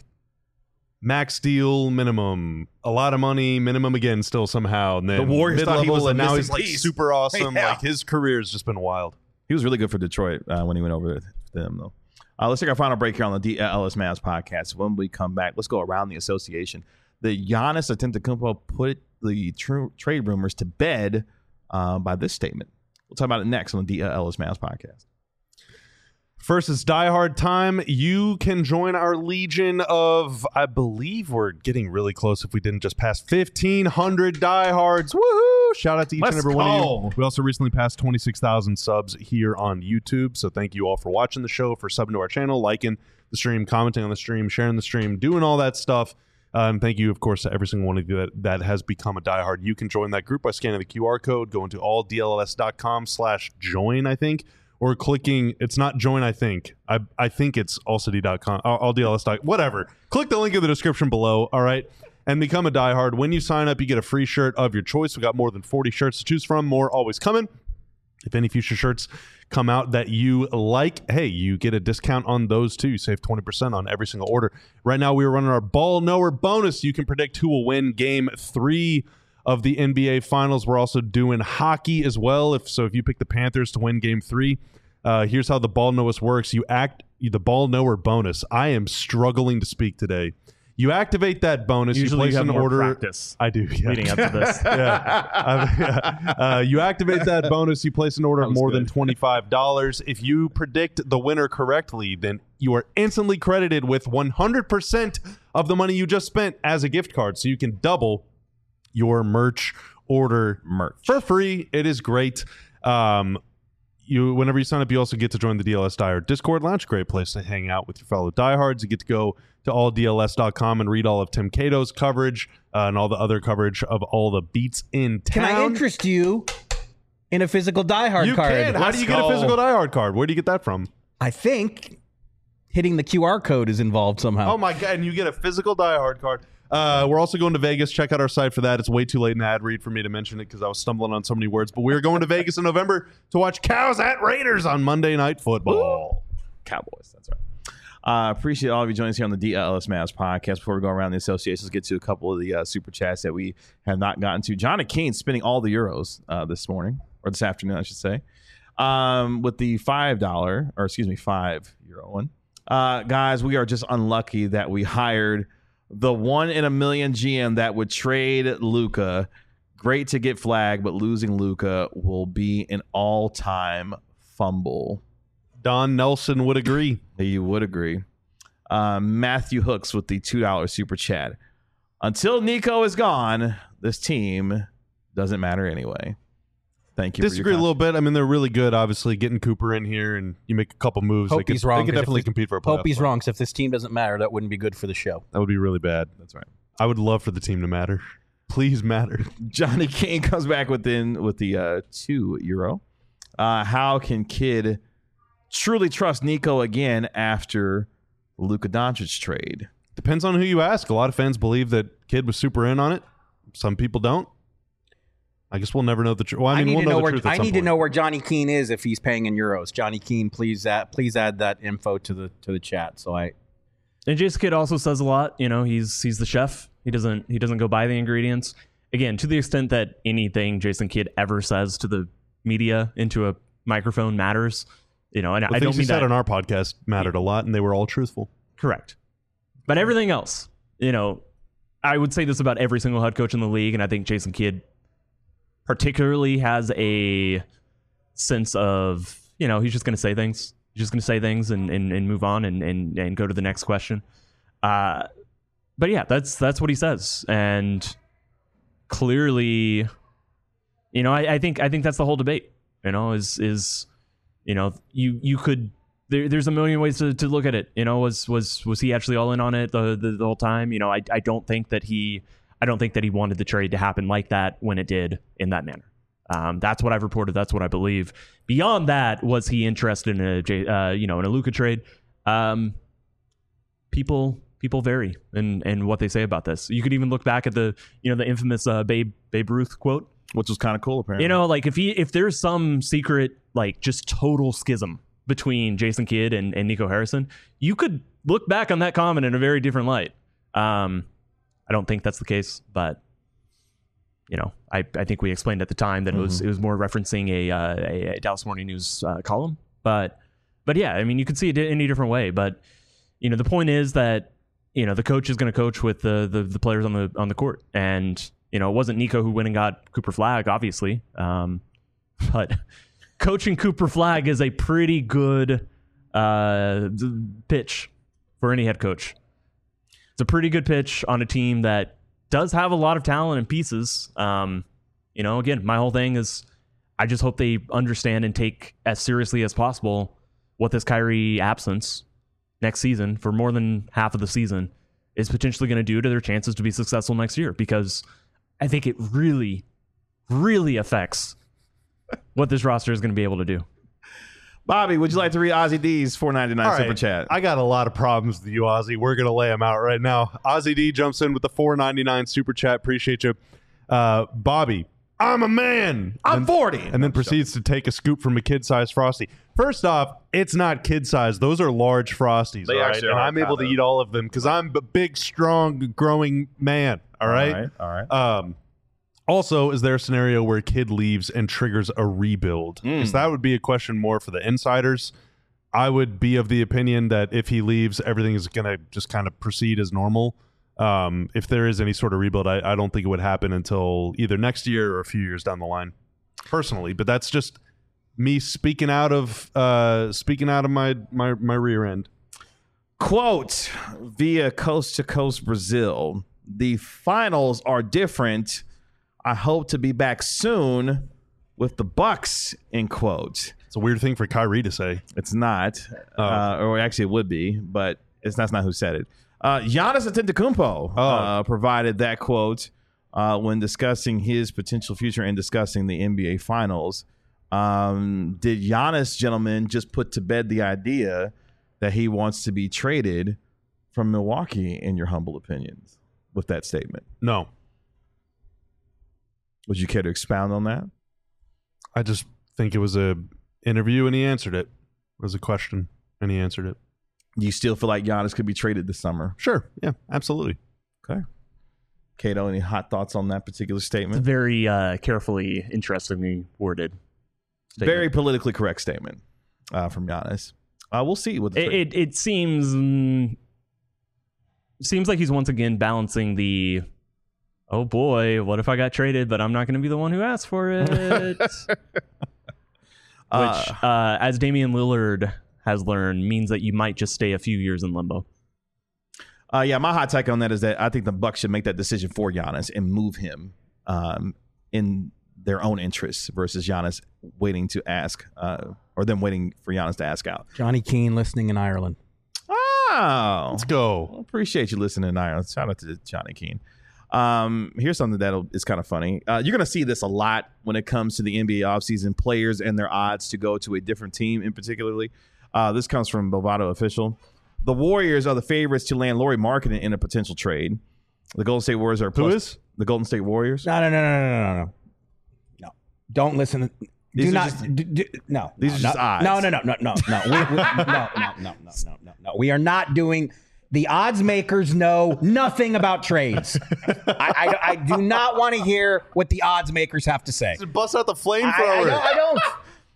max deal minimum, a lot of money minimum again still somehow. And then The Warriors thought he mid-level, was a and now missing he's like piece. super awesome. Yeah. Like his career has just been wild. He was really good for Detroit uh, when he went over to them, though. Uh, let's take our final break here on the D L S Mavs podcast. When we come back, let's go around the association. The Giannis Antetokounmpo put the tr- trade rumors to bed uh, by this statement. We'll talk about it next on the D L S Mavs podcast. First, it's Die Hard time. You can join our legion of, I believe we're getting really close if we didn't just pass fifteen hundred diehards. Woohoo! Shout out to each Let's and every one of go. you. We also recently passed twenty-six thousand subs here on YouTube. So thank you all for watching the show, for subbing to our channel, liking the stream, commenting on the stream, sharing the stream, doing all that stuff. Uh, and thank you, of course, to every single one of you that, that has become a diehard. You can join that group by scanning the Q R code, going to all D L S dot com slash join, I think, or clicking, it's not join, I think. I I think it's all city dot com, all D L S. Whatever. Click the link in the description below, all right, and become a diehard. When you sign up, you get a free shirt of your choice. We got more than forty shirts to choose from, more always coming. If any future shirts come out that you like, hey, you get a discount on those too. You save twenty percent on every single order. Right now, we are running our Ball Knower bonus. You can predict who will win game three of the N B A Finals. We're also doing hockey as well. If so, if you pick the Panthers to win game three, uh, here's how the Ball Knowers works. You act the Ball Knower bonus. I am struggling to speak today. You activate that bonus. Usually you place you have an more order. practice I do. Yeah. leading up to this. yeah. Uh, yeah. Uh, you activate that bonus. You place an order of was more good. than twenty-five dollars. If you predict the winner correctly, then you are instantly credited with one hundred percent of the money you just spent as a gift card. So you can double your merch order Merch. for free. It is great. Um, you whenever you sign up, you also get to join the D L S Diehard Discord Lounge. Great place to hang out with your fellow diehards. You get to go to all D L S dot com and read all of Tim Cato's coverage uh, and all the other coverage of all the beats in Can town. I interest you in a physical diehard you card? can. How Let's do you get a go. physical diehard card? Where do you get that from? I think hitting the Q R code is involved somehow. Oh my god! And you get a physical diehard card. Uh, we're also going to Vegas. Check out our site for that. It's way too late in the ad read for me to mention it because I was stumbling on so many words. But we're going to Vegas in November to watch Cows at Raiders on Monday Night Football. Cowboys. That's right. Uh, appreciate all of you joining us here on the D L S Mavs podcast. Before we go around the associations, get to a couple of the uh, super chats that we have not gotten to. Johnny Keene spending all the euros uh, this morning, or this afternoon, I should say, um, with the five dollar, or excuse me, five euro one. Uh, guys, we are just unlucky that we hired the one in a million G M that would trade Luka. Great to get flagged, but losing Luka will be an all-time fumble. Don Nelson would agree. You would agree. Uh, Matthew Hooks with the two dollar super chat. Until Nico is gone, this team doesn't matter anyway. Thank you. Disagree for a your little bit. I mean, they're really good. Obviously, getting Cooper in here and you make a couple moves. Hope they could, he's wrong, They could 'cause if definitely this- compete for a playoff Hope he's spot. wrong. 'Cause if this team doesn't matter, that wouldn't be good for the show. That would be really bad. That's right. I would love for the team to matter. Please matter. Johnny King comes back within with the uh, two euro. Uh, how can Kid truly trust Nico again after Luka Doncic trade? Depends on who you ask. A lot of fans believe that Kid was super in on it. Some people don't. I guess we'll never know the truth. Well, I mean, need we'll to know, know the where truth at I some need to point. know where Johnny Keene is if he's paying in euros. Johnny Keene, please add, please add that info to the to the chat. So I And Jason Kidd also says a lot. You know, he's he's the chef. He doesn't he doesn't go buy the ingredients. Again, to the extent that anything Jason Kidd ever says to the media into a microphone matters, You know, and The I things don't you mean said that on our podcast mattered a lot, and they were all truthful. correct. But everything else, you know, I would say this about every single head coach in the league, and I think Jason Kidd particularly has a sense of, you know, he's just going to say things. He's just going to say things and, and, and move on and, and, and go to the next question. Uh, but yeah, that's that's what he says. And clearly, you know, I, I think I think that's the whole debate, you know, is, is you know, you you could, there, there's a million ways to, to look at it. You know, was was was he actually all in on it the, the, the whole time? You know, I, I don't think that he I don't think that he wanted the trade to happen like that when it did in that manner. Um, that's what I've reported. That's what I believe. Beyond that, was he interested in a J- uh, you know in a Luka trade? Um, people people vary in, in what they say about this. You could even look back at the you know the infamous uh, Babe Babe Ruth quote, which was kind of cool apparently. You know, like if he if there's some secret like just total schism between Jason Kidd and, and Nico Harrison, you could look back on that comment in a very different light. Um, I don't think that's the case, but you know, I, I think we explained at the time that mm-hmm. it was it was more referencing a, uh, a, a Dallas Morning News uh, column. But but yeah, I mean, you could see it in any different way. But you know, the point is that you know the coach is going to coach with the, the the players on the on the court, and you know, it wasn't Nico who went and got Cooper Flagg, obviously, um, but coaching Cooper Flagg is a pretty good uh, pitch for any head coach. It's a pretty good pitch on a team that does have a lot of talent and pieces. Um, you know, again, my whole thing is I just hope they understand and take as seriously as possible what this Kyrie absence next season for more than half of the season is potentially going to do to their chances to be successful next year, because I think it really, really affects what this roster is going to be able to do. Bobby, would you like to read Ozzy D's four ninety-nine All super right. chat? I got a lot of problems with you, Ozzy. We're going to lay them out right now. Ozzy D jumps in with the four ninety-nine super chat. Appreciate you. Uh, Bobby, I'm a man. I'm and, forty. And then proceeds to take a scoop from a kid-sized Frosty. First off, it's not kid-sized. Those are large Frosties, They all right? actually And are, I'm able to kinda. eat all of them because I'm a big, strong, growing man, all right? All right. All right. Um, also, is there a scenario where a kid leaves and triggers a rebuild? Because Mm. that would be a question more for the insiders. I would be of the opinion that if he leaves, everything is going to just kind of proceed as normal. Um, if there is any sort of rebuild, I, I don't think it would happen until either next year or a few years down the line, personally. But that's just me speaking out of uh, speaking out of my, my my rear end. Quote via Coast to Coast Brazil: the finals are different. I hope to be back soon with the Bucks. End quote. It's a weird thing for Kyrie to say. It's not, Oh. uh, or actually it would be, but it's that's not who said it. Uh, Giannis Antetokounmpo Oh. uh, provided that quote uh, when discussing his potential future and discussing the N B A Finals. Um, did Giannis, gentlemen, just put to bed the idea that he wants to be traded from Milwaukee, in your humble opinions, with that statement? No, Would you care to expound on that? I just think it was a interview and he answered it. It was a question and he answered it. Do you still feel like Giannis could be traded this summer? Sure. Yeah, absolutely. Okay. Kato, any hot thoughts on that particular It's statement? very uh, carefully, interestingly worded statement. Very politically correct statement uh, from Giannis. Uh, we'll see what the It, trade- it it seems mm, seems like he's once again balancing the oh boy, what if I got traded, but I'm not going to be the one who asked for it. Which, Uh, uh, as Damian Lillard has learned, means that you might just stay a few years in limbo. Uh, yeah, my hot take on that is that I think the Bucks should make that decision for Giannis and move him um, in their own interests versus Giannis waiting to ask uh, or them waiting for Giannis to ask out. Johnny Keane listening in Ireland. Oh, Let's go. appreciate you listening in Ireland. Shout out to Johnny Keane. Um, here's something that is kind of funny. Uh, you're going to see this a lot when it comes to the N B A offseason, players and their odds to go to a different team in particularly. Uh, this comes from Bovado Official. The Warriors are the favorites to land Lauri Markkanen in a potential trade. The Golden State Warriors are Who plus, is? the Golden State Warriors. No, no, no, no, no, no, no. No. Don't listen. To, These do are not. just- do, do, no. these no, are just no, odds. No, no, no, no, no, no. We, we, no, no, no, no, no, no, no. We are not doing. The odds makers know nothing about trades. I, I, I do not want to hear what the odds makers have to say. Bust out the I, I, flamethrower. don't, I don't.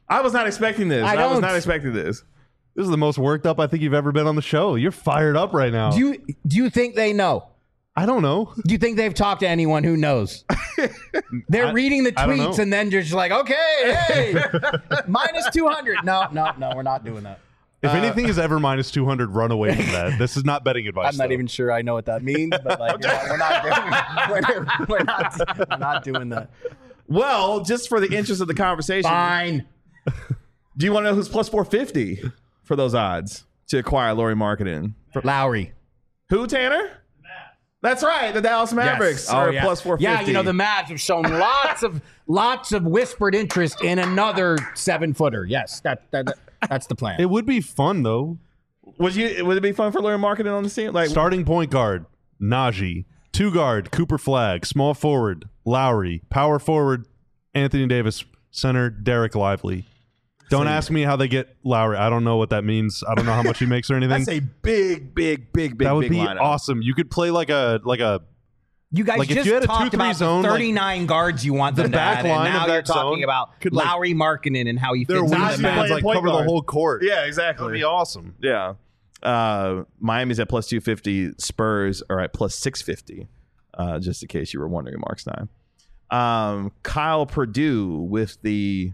I was not expecting this. I I, was don't. not expecting this. This is the most worked up I think you've ever been on the show. You're fired up right now. Do you do you think they know? I don't know. Do you think they've talked to anyone who knows? They're I- reading the I don't tweets know. and then just like, okay, hey, minus two hundred. No, no, no, we're not doing that. If anything is ever minus two hundred, run away from that. This is not betting advice. I'm not though. even sure I know what that means, but like, you know, we're not doing, we're, we're not, we're not doing that. Well, just for the interest of the conversation, Fine. do you want to know who's plus four fifty for those odds to acquire Lauri Markkanen? Lowry. Who, Tanner? That's right. The Dallas Mavericks Yes. are Oh, yeah. plus four fifty. Yeah, you know, the Mavs have shown lots of lots of whispered interest in another seven footer. Yes, that, that, that that's the plan. It would be fun though. Would you? Would it be fun for Lauri Markkanen on the team? Like, Starting point guard, Najee. Two guard, Cooper Flag. Small forward, Lowry. Power forward, Anthony Davis. Center, Derek Lively. Don't ask me how they get Lowry. I don't know what that means. I don't know how much he makes or anything. that's a big, big, big, big, that would big be lineup. awesome. You could play like a like a You guys Like, if just you had a talked two three about zone, the like, thirty-nine guards you want the them to back add, line and now of you're that talking zone about could, like- Lowry Markkanen and how he their fits into the Najee wingspans Mavs. playing like point cover the guard. whole court. Yeah, That would exactly. be awesome. Yeah. Uh, Miami's at plus two fifty. Spurs are at plus six fifty. Uh, just in case you were wondering, Mark Stein. Um, Kyle Purdue with the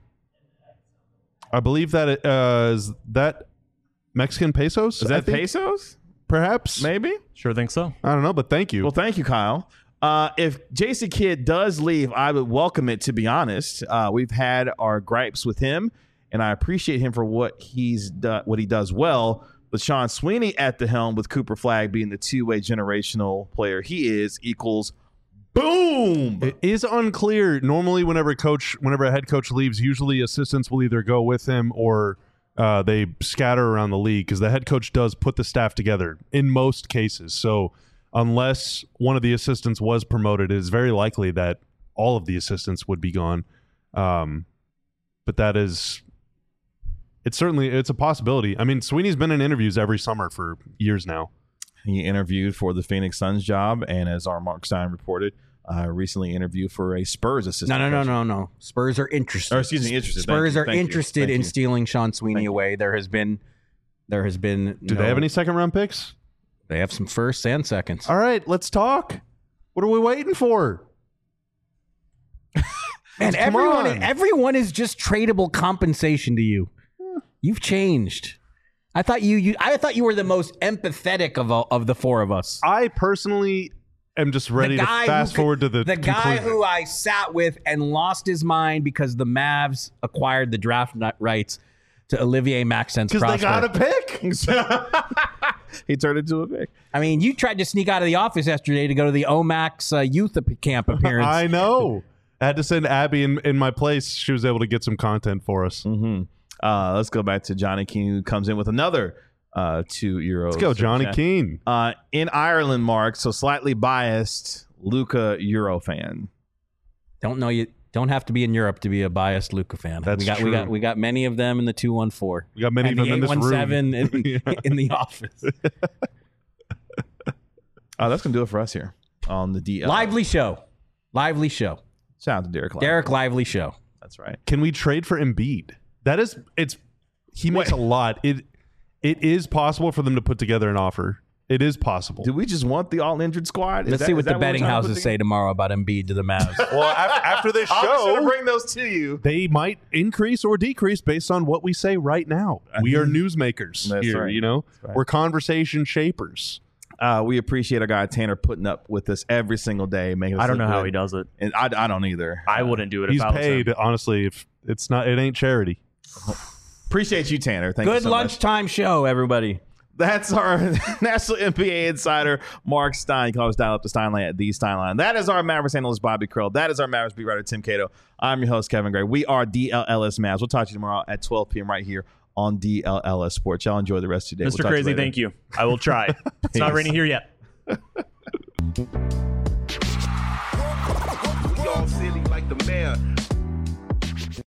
I believe that it, uh, is that Mexican pesos. is I that think, pesos? Perhaps. Maybe. Sure think so. I don't know, but thank you. Well, thank you, Kyle. Uh, if Jason Kidd does leave, I would welcome it. To be honest, uh, we've had our gripes with him, and I appreciate him for what he's done, what he does well. But Sean Sweeney at the helm, with Cooper Flag being the two-way generational player he is, equals boom. It is unclear. Normally, whenever a coach, whenever a head coach leaves, usually assistants will either go with him or uh, they scatter around the league because the head coach does put the staff together in most cases. So unless one of the assistants was promoted, it is very likely that all of the assistants would be gone. Um, but that is, it's certainly it's a possibility. I mean, Sweeney's been in interviews every summer for years now. He interviewed for the Phoenix Suns job, and as our Mark Stein reported, uh, recently interviewed for a Spurs assistant. No, no, no, coach. no, no. Spurs are interested. Or excuse me, interested. Spurs Thank you. are Thank you. interested Thank in you. stealing Sean Sweeney Thank you. away. There has been, there has been. Do no- they have any second round picks? They have some firsts and seconds. All right, let's talk. What are we waiting for? Man, Come everyone, on. everyone is just tradable compensation to you. You've changed. I thought you, you I thought you were the most empathetic of all, of the four of us. I personally am just ready the to guy fast who, forward to the the guy conclusion. who I sat with and lost his mind because the Mavs acquired the draft nut rights to Olivier Maxence because they Prosper. got a pick. He turned into a pick. I mean, you tried to sneak out of the office yesterday to go to the O MAX uh, youth ap- camp appearance. I know. I had to send Abby in, in my place. She was able to get some content for us. Mm-hmm. Uh, let's go back to Johnny Keane, who comes in with another uh, two euros. Let's go, Johnny Keane. Uh, in Ireland, Mark, so slightly biased Luca Euro fan. Don't know you. Don't have to be in Europe to be a biased Luca fan. That's we got true. we got we got many of them in the two one four. We got many and of the them in this room. eight one seven in, Yeah. in the office. Uh, that's gonna do it for us here on the D L. Lively show, lively show. Shout out to Derek. Lively. Derek Lively show. That's right. Can we trade for Embiid? That is, it's he makes Wait. a lot. It it is possible for them to put together an offer. It is possible. Do we just want the all injured squad? Is Let's that- see is what that the we're betting trying to put houses together? say tomorrow about Embiid to the Mavs. well, after, after this I'm just gonna show, bring those to you. they might increase or decrease based on what we say right now. We are newsmakers That's here, right. you know? right. We're conversation shapers. Uh, we appreciate our guy Tanner putting up with us every single day, making us I don't look know how good. he does it. And I, I don't either. I Uh, wouldn't do it He's if I was paid, him. honestly, if it's not it ain't charity. Appreciate you, Tanner. Thank you Good so much. lunchtime show, everybody. That's our National N B A insider, Mark Stein. You can always dial up the Steinline at the Steinline. That is our Mavericks analyst, Bobby Krill. That is our Mavericks beat writer, Tim Cato. I'm your host, Kevin Gray. We are D L L S Mavs. We'll talk to you tomorrow at twelve p.m. right here on D L L S Sports. Y'all enjoy the rest of your day. Mister We'll talk to Crazy, later. thank you. I will try. It's not Peace. raining here yet. We all silly like the mayor.